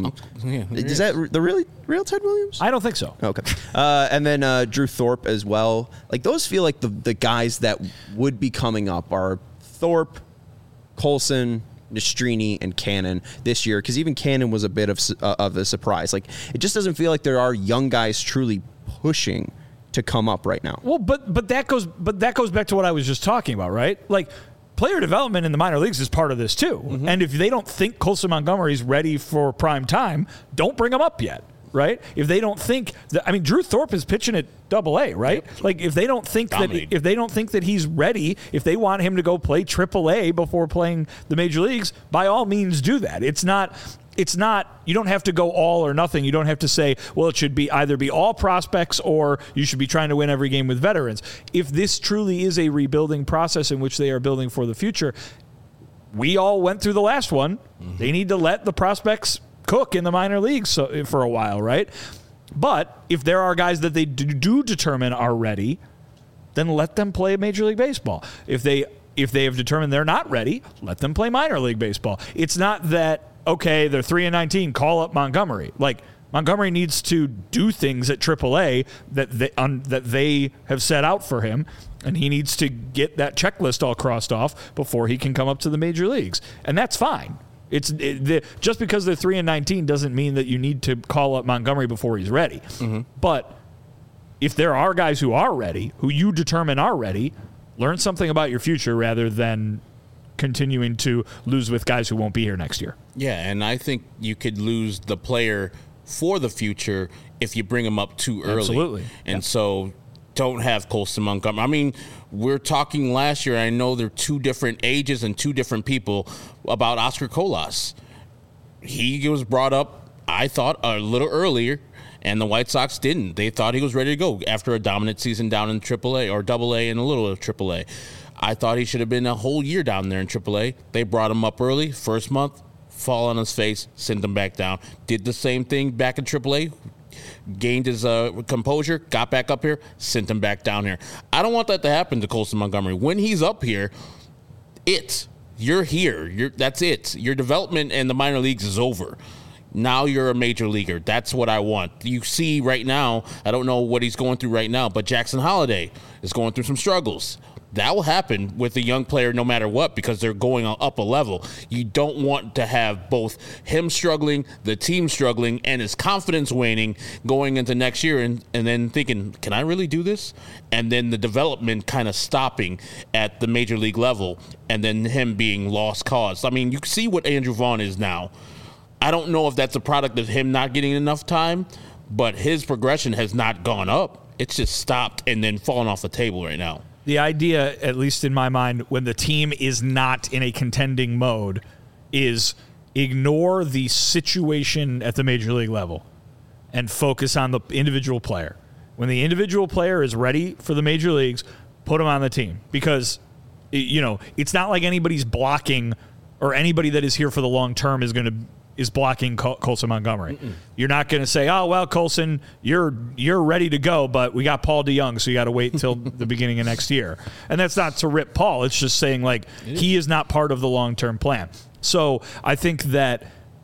Is that the real Ted Williams? I don't think so. Okay. And then Drew Thorpe as well. Like, those feel like the guys that would be coming up are Thorpe, Colson, Nastrini, and Cannon this year, because even Cannon was a bit of a surprise. Like, it just doesn't feel like there are young guys truly pushing to come up right now. Well, but that goes back to what I was just talking about, right? Like, player development in the minor leagues is part of this too. Mm-hmm. And if they don't think Colson Montgomery's ready for prime time, don't bring him up yet. Right? If they don't think that, I mean, Drew Thorpe is pitching at AA, right? Yep. Like, if they don't think that he's ready, if they want him to go play AAA before playing the major leagues, by all means do that. It's not, you don't have to go all or nothing. You don't have to say, well, it should be either be all prospects or you should be trying to win every game with veterans. If this truly is a rebuilding process in which they are building for the future, we all went through the last one. Mm-hmm. They need to let the prospects cook in the minor leagues for a while, right? But if there are guys that they do determine are ready, then let them play Major League Baseball. If they have determined they're not ready, let them play minor league baseball. It's not that, okay, they're 3-19, call up Montgomery. Like, Montgomery needs to do things at AAA that they have set out for him, and he needs to get that checklist all crossed off before he can come up to the major leagues. And that's fine. Just because they're 3-19 doesn't mean that you need to call up Montgomery before he's ready. Mm-hmm. But if there are guys who are ready, who you determine are ready, learn something about your future rather than continuing to lose with guys who won't be here next year. Yeah, and I think you could lose the player for the future if you bring him up too early. Absolutely. And so don't have Colson Montgomery. I mean, we're talking last year, I know they're two different ages and two different people, about Oscar Colas. He was brought up, I thought, a little earlier, and the White Sox didn't. They thought he was ready to go after a dominant season down in AAA or AA and a little of AAA. I thought he should have been a whole year down there in AAA. They brought him up early, first month, fall on his face, sent him back down. Did the same thing back in AAA, gained his composure, got back up here, sent him back down here. I don't want that to happen to Colson Montgomery. When he's up here, you're here. That's it. Your development in the minor leagues is over. Now you're a major leaguer. That's what I want. You see right now, I don't know what he's going through right now, but Jackson Holliday is going through some struggles. That will happen with a young player no matter what, because they're going up a level. You don't want to have both him struggling, the team struggling, and his confidence waning going into next year and then thinking, can I really do this? And then the development kind of stopping at the major league level and then him being lost cause. I mean, you see what Andrew Vaughn is now. I don't know if that's a product of him not getting enough time, but his progression has not gone up. It's just stopped and then fallen off the table right now. The idea, at least in my mind, when the team is not in a contending mode, is ignore the situation at the major league level and focus on the individual player. When the individual player is ready for the major leagues, put him on the team. Because, it's not like anybody's blocking, or anybody that is here for the long term is blocking Colson Montgomery. Mm-mm. You're not going to say, oh, well, Colson, you're ready to go, but we got Paul DeJong, so you got to wait until the beginning of next year. And that's not to rip Paul. It's just saying, like, he is not part of the long-term plan. So I think that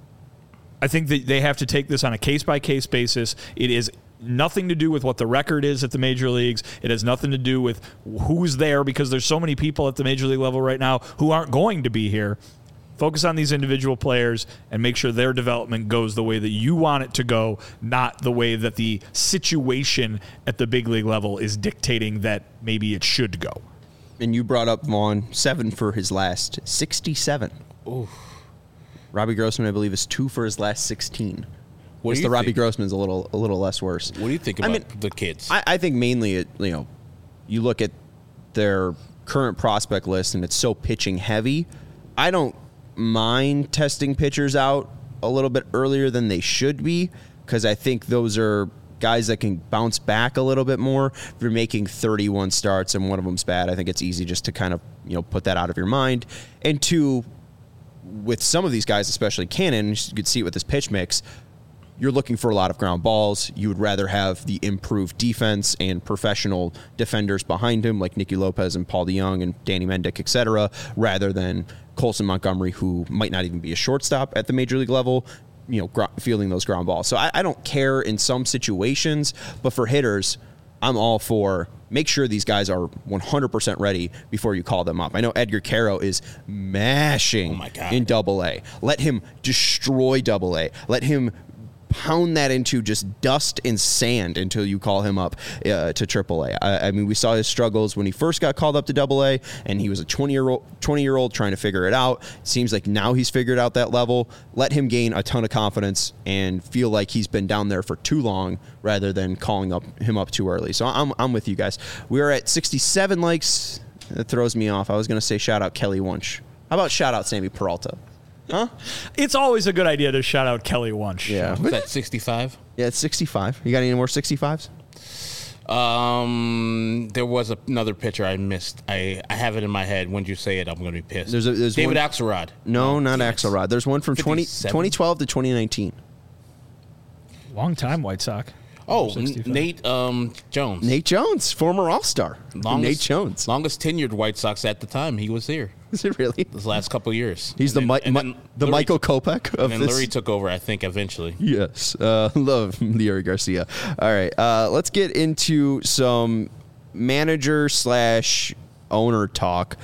they have to take this on a case-by-case basis. It is nothing to do with what the record is at the major leagues. It has nothing to do with who's there, because there's so many people at the major league level right now who aren't going to be here. Focus on these individual players and make sure their development goes the way that you want it to go, not the way that the situation at the big league level is dictating that maybe it should go. And you brought up Vaughn, 7 for his last 67. Oof. Robbie Grossman, I believe, is 2 for his last 16. What do you Robbie Grossman's a little less worse. What do you think about the kids? I think mainly, you look at their current prospect list and it's so pitching heavy. I don't mind testing pitchers out a little bit earlier than they should be, because I think those are guys that can bounce back a little bit more. If you're making 31 starts and one of them's bad, I think it's easy just to kind of put that out of your mind. And 2, with some of these guys, especially Cannon, you could see it with this pitch mix, you're looking for a lot of ground balls. You would rather have the improved defense and professional defenders behind him, like Nicky Lopez and Paul DeJong and Danny Mendick, et cetera, rather than Colson Montgomery, who might not even be a shortstop at the major league level, fielding those ground balls. So I don't care in some situations, but for hitters, I'm all for make sure these guys are 100% ready before you call them up. I know Edgar Caro is mashing in AA. Let him destroy AA. Let him pound that into just dust and sand until you call him up to AAA. I mean, we saw his struggles when he first got called up to AA, and he was a 20-year-old trying to figure it out. It seems like now he's figured out that level. Let him gain a ton of confidence and feel like he's been down there for too long rather than calling him up too early. So I'm with you guys. We are at 67 likes. That throws me off. I was going to say shout out Kelly Wunsch. How about shout out Sammy Peralta? Huh? It's always a good idea to shout out Kelly Wunsch. Yeah. Was that 65? Yeah, it's 65. You got any more 65s? There was another pitcher I missed. I have it in my head. When you say it, I'm going to be pissed. There's David one, Axelrod. No, not Axelrod. There's one from 57? 2012 to 2019. Long time White Sox. Oh, 65. Nate Jones. Nate Jones, former All-Star. Nate Jones. Longest tenured White Sox at the time. He was here. Is it really? This last couple of years. He's And the then Michael Kopech of and then this. Lurie took over, I think, eventually. Yes. Love Leury Garcia. All right. Let's get into some manager/owner talk.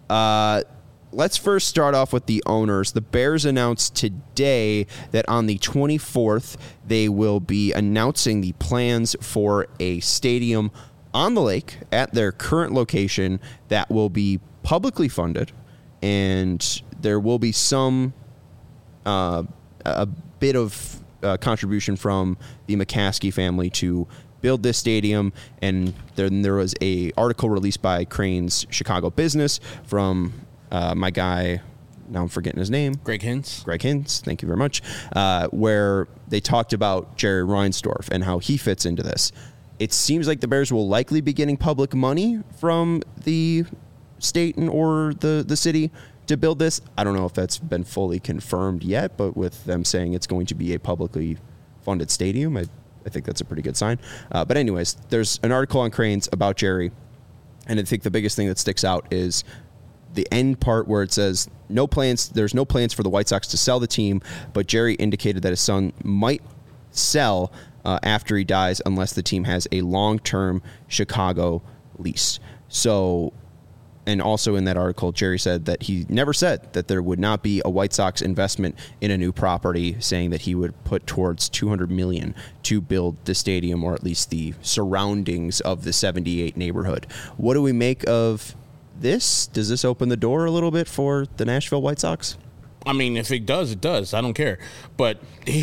Let's first start off with the owners. The Bears announced today that on the 24th, they will be announcing the plans for a stadium on the lake at their current location that will be publicly funded, and there will be some a bit of contribution from the McCaskey family to build this stadium. And then there was a article released by Crane's Chicago Business from my guy, now I'm forgetting his name. Greg Hintz. Thank you very much. Where they talked about Jerry Reinsdorf and how he fits into this. It seems like the Bears will likely be getting public money from the state or the city to build this. I don't know if that's been fully confirmed yet, but with them saying it's going to be a publicly funded stadium, I think that's a pretty good sign. But anyways, there's an article on Cranes about Jerry, and I think the biggest thing that sticks out is the end part where it says there's no plans for the White Sox to sell the team, but Jerry indicated that his son might sell after he dies unless the team has a long-term Chicago lease. So, and also in that article, Jerry said that he never said that there would not be a White Sox investment in a new property, saying that he would put towards $200 million to build the stadium, or at least the surroundings of the 78 neighborhood. What do we make of this? Does this open the door a little bit for the Nashville White Sox? I mean, if it does, it does. I don't care. But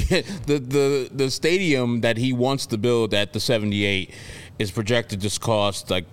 the stadium that he wants to build at the 78 is projected to cost like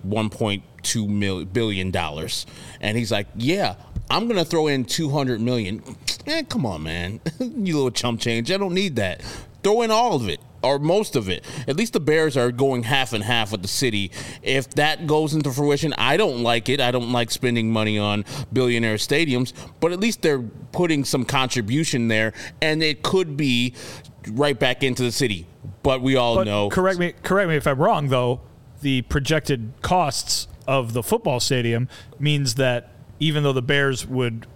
$1.2 billion. And he's like, yeah, I'm going to throw in $200 million. Come on, man. You little chump change. I don't need that. Throw in all of it, or most of it. At least the Bears are going half and half with the city. If that goes into fruition, I don't like it. I don't like spending money on billionaire stadiums, but at least they're putting some contribution there, and it could be right back into the city. But we all know. Correct me if I'm wrong, though. The projected costs of the football stadium means that even though the Bears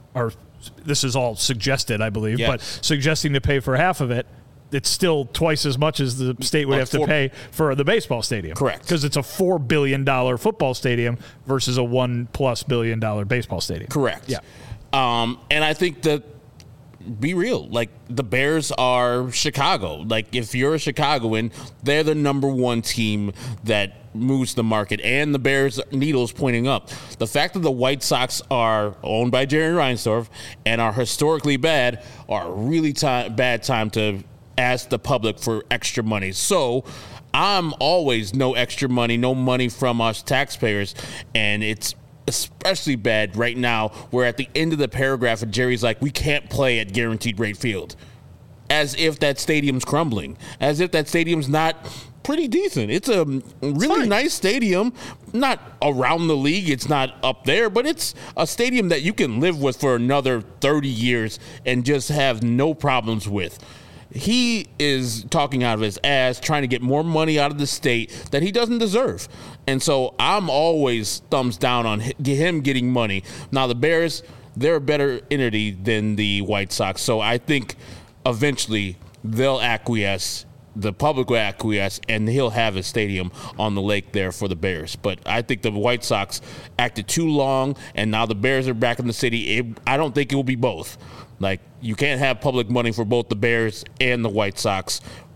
this is all suggested, I believe, yes, but suggesting to pay for half of it, it's still twice as much as the state would have to pay for the baseball stadium. Correct. Because it's a $4 billion football stadium versus a $1+ billion baseball stadium. Correct. Yeah. And I think that, be real, like the Bears are Chicago. Like if you're a Chicagoan, they're the number one team that moves the market, and the Bears needle's pointing up. The fact that the White Sox are owned by Jerry Reinsdorf and are historically bad are a really bad time to ask the public for extra money. So I'm always no extra money, no money from us taxpayers, and it's especially bad right now where at the end of the paragraph Jerry's like, we can't play at Guaranteed Rate Field, as if that stadium's crumbling, as if that stadium's not pretty decent. It's a really nice stadium, not around the league, it's not up there, but it's a stadium that you can live with for another 30 years and just have no problems with. He is talking out of his ass, trying to get more money out of the state that he doesn't deserve. And so I'm always thumbs down on him getting money. Now, the Bears, they're a better entity than the White Sox. So I think eventually they'll acquiesce, the public will acquiesce, and he'll have a stadium on the lake there for the Bears. But I think the White Sox acted too long, and now the Bears are back in the city. I don't think it will be both. Like, you can't have public money for both the Bears and the White Sox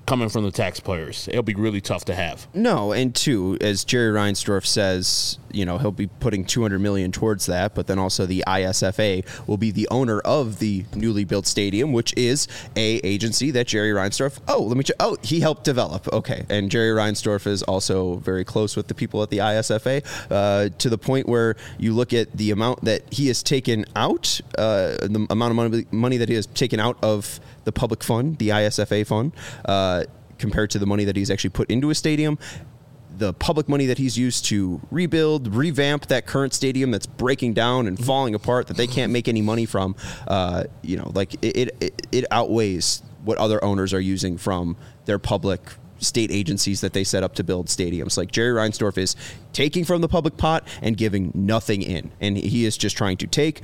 coming from the taxpayers. It'll be really tough to have. No, and two, as Jerry Reinsdorf says, he'll be putting $200 million towards that, but then also the ISFA will be the owner of the newly built stadium, which is a agency that Jerry Reinsdorf, he helped develop. Okay, and Jerry Reinsdorf is also very close with the people at the ISFA, to the point where you look at the amount that he has taken out, the amount of money that he has taken out of the public fund, the ISFA fund, compared to the money that he's actually put into a stadium. The public money that he's used to rebuild, revamp that current stadium that's breaking down and falling apart, that they can't make any money from, it outweighs what other owners are using from their public state agencies that they set up to build stadiums. Like Jerry Reinsdorf is taking from the public pot and giving nothing in. And he is just trying to take.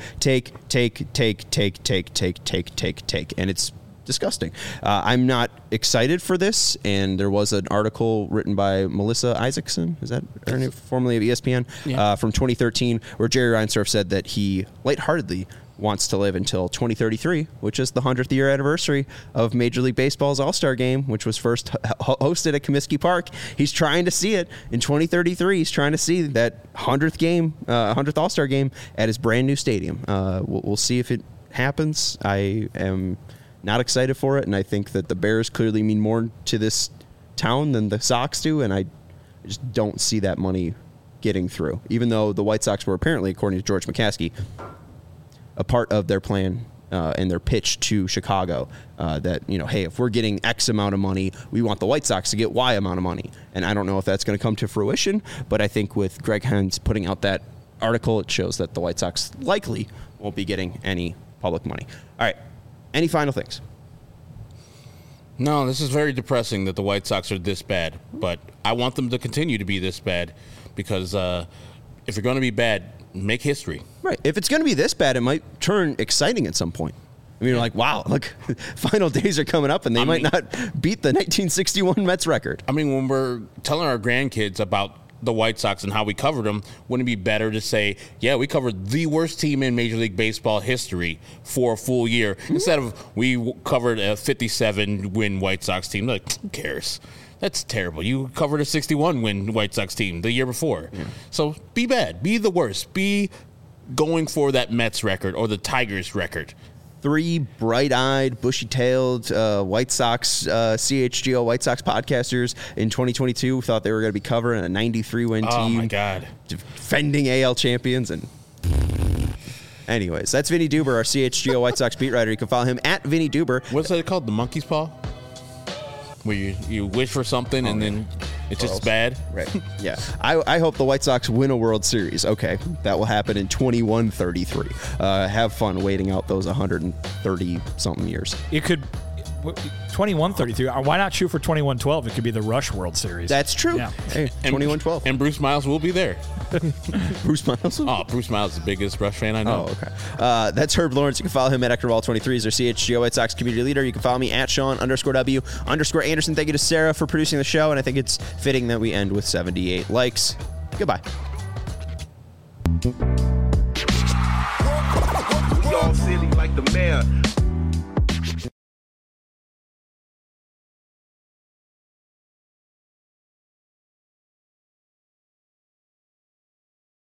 And it's disgusting. I'm not excited for this. And there was an article written by Melissa Isaacson, is that her name, formerly of ESPN, from 2013, where Jerry Reinsdorf said that he lightheartedly wants to live until 2033, which is the 100th year anniversary of Major League Baseball's All-Star Game, which was first hosted at Comiskey Park. He's trying to see it in 2033. He's trying to see that 100th All-Star Game at his brand new stadium. We'll see if it happens. I am not excited for it, and I think that the Bears clearly mean more to this town than the Sox do, and I just don't see that money getting through, even though the White Sox were apparently, according to George McCaskey, a part of their plan and their pitch to Chicago that, hey, if we're getting X amount of money, we want the White Sox to get Y amount of money. And I don't know if that's going to come to fruition, but I think with Greg Hens putting out that article, it shows that the White Sox likely won't be getting any public money. All right. Any final things? No, this is very depressing that the White Sox are this bad, but I want them to continue to be this bad because if you're going to be bad, make history. Right. If it's going to be this bad, it might turn exciting at some point. I mean, you're like, wow, look, final days are coming up, and they might not beat the 1961 Mets record. I mean, when we're telling our grandkids about the White Sox and how we covered them, wouldn't it be better to say, yeah, we covered the worst team in Major League Baseball history for a full year, instead of we covered a 57-win White Sox team? Like, who cares? That's terrible. You covered a 61-win White Sox team the year before. Yeah. So be bad. Be the worst. Be going for that Mets record or the Tigers record. 3 bright-eyed, bushy-tailed White Sox, CHGO White Sox podcasters in 2022 thought they were going to be covering a 93-win team. Oh, my God. Defending AL champions. And anyways, that's Vinny Duber, our CHGO White Sox beat writer. You can follow him at Vinny Duber. What's that called? The monkey's paw? Where you wish for something and then it's just bad? Right. Yeah. I hope the White Sox win a World Series. Okay. That will happen in 21-33. Have fun waiting out those 130-something years. It could... 21-33. Why not shoot for 21-12? It could be the Rush World Series. That's true. Yeah. Hey, 21-12. And Bruce Miles will be there. Bruce Miles? Oh, Bruce Miles is the biggest Rush fan I know. Oh, okay. That's Herb Lawrence. You can follow him at Ectorwall23. He's our CHGO White Sox community leader. You can follow me at Sean_W_Anderson. Thank you to Sarah for producing the show, and I think it's fitting that we end with 78 likes. Goodbye. We all silly like the mayor.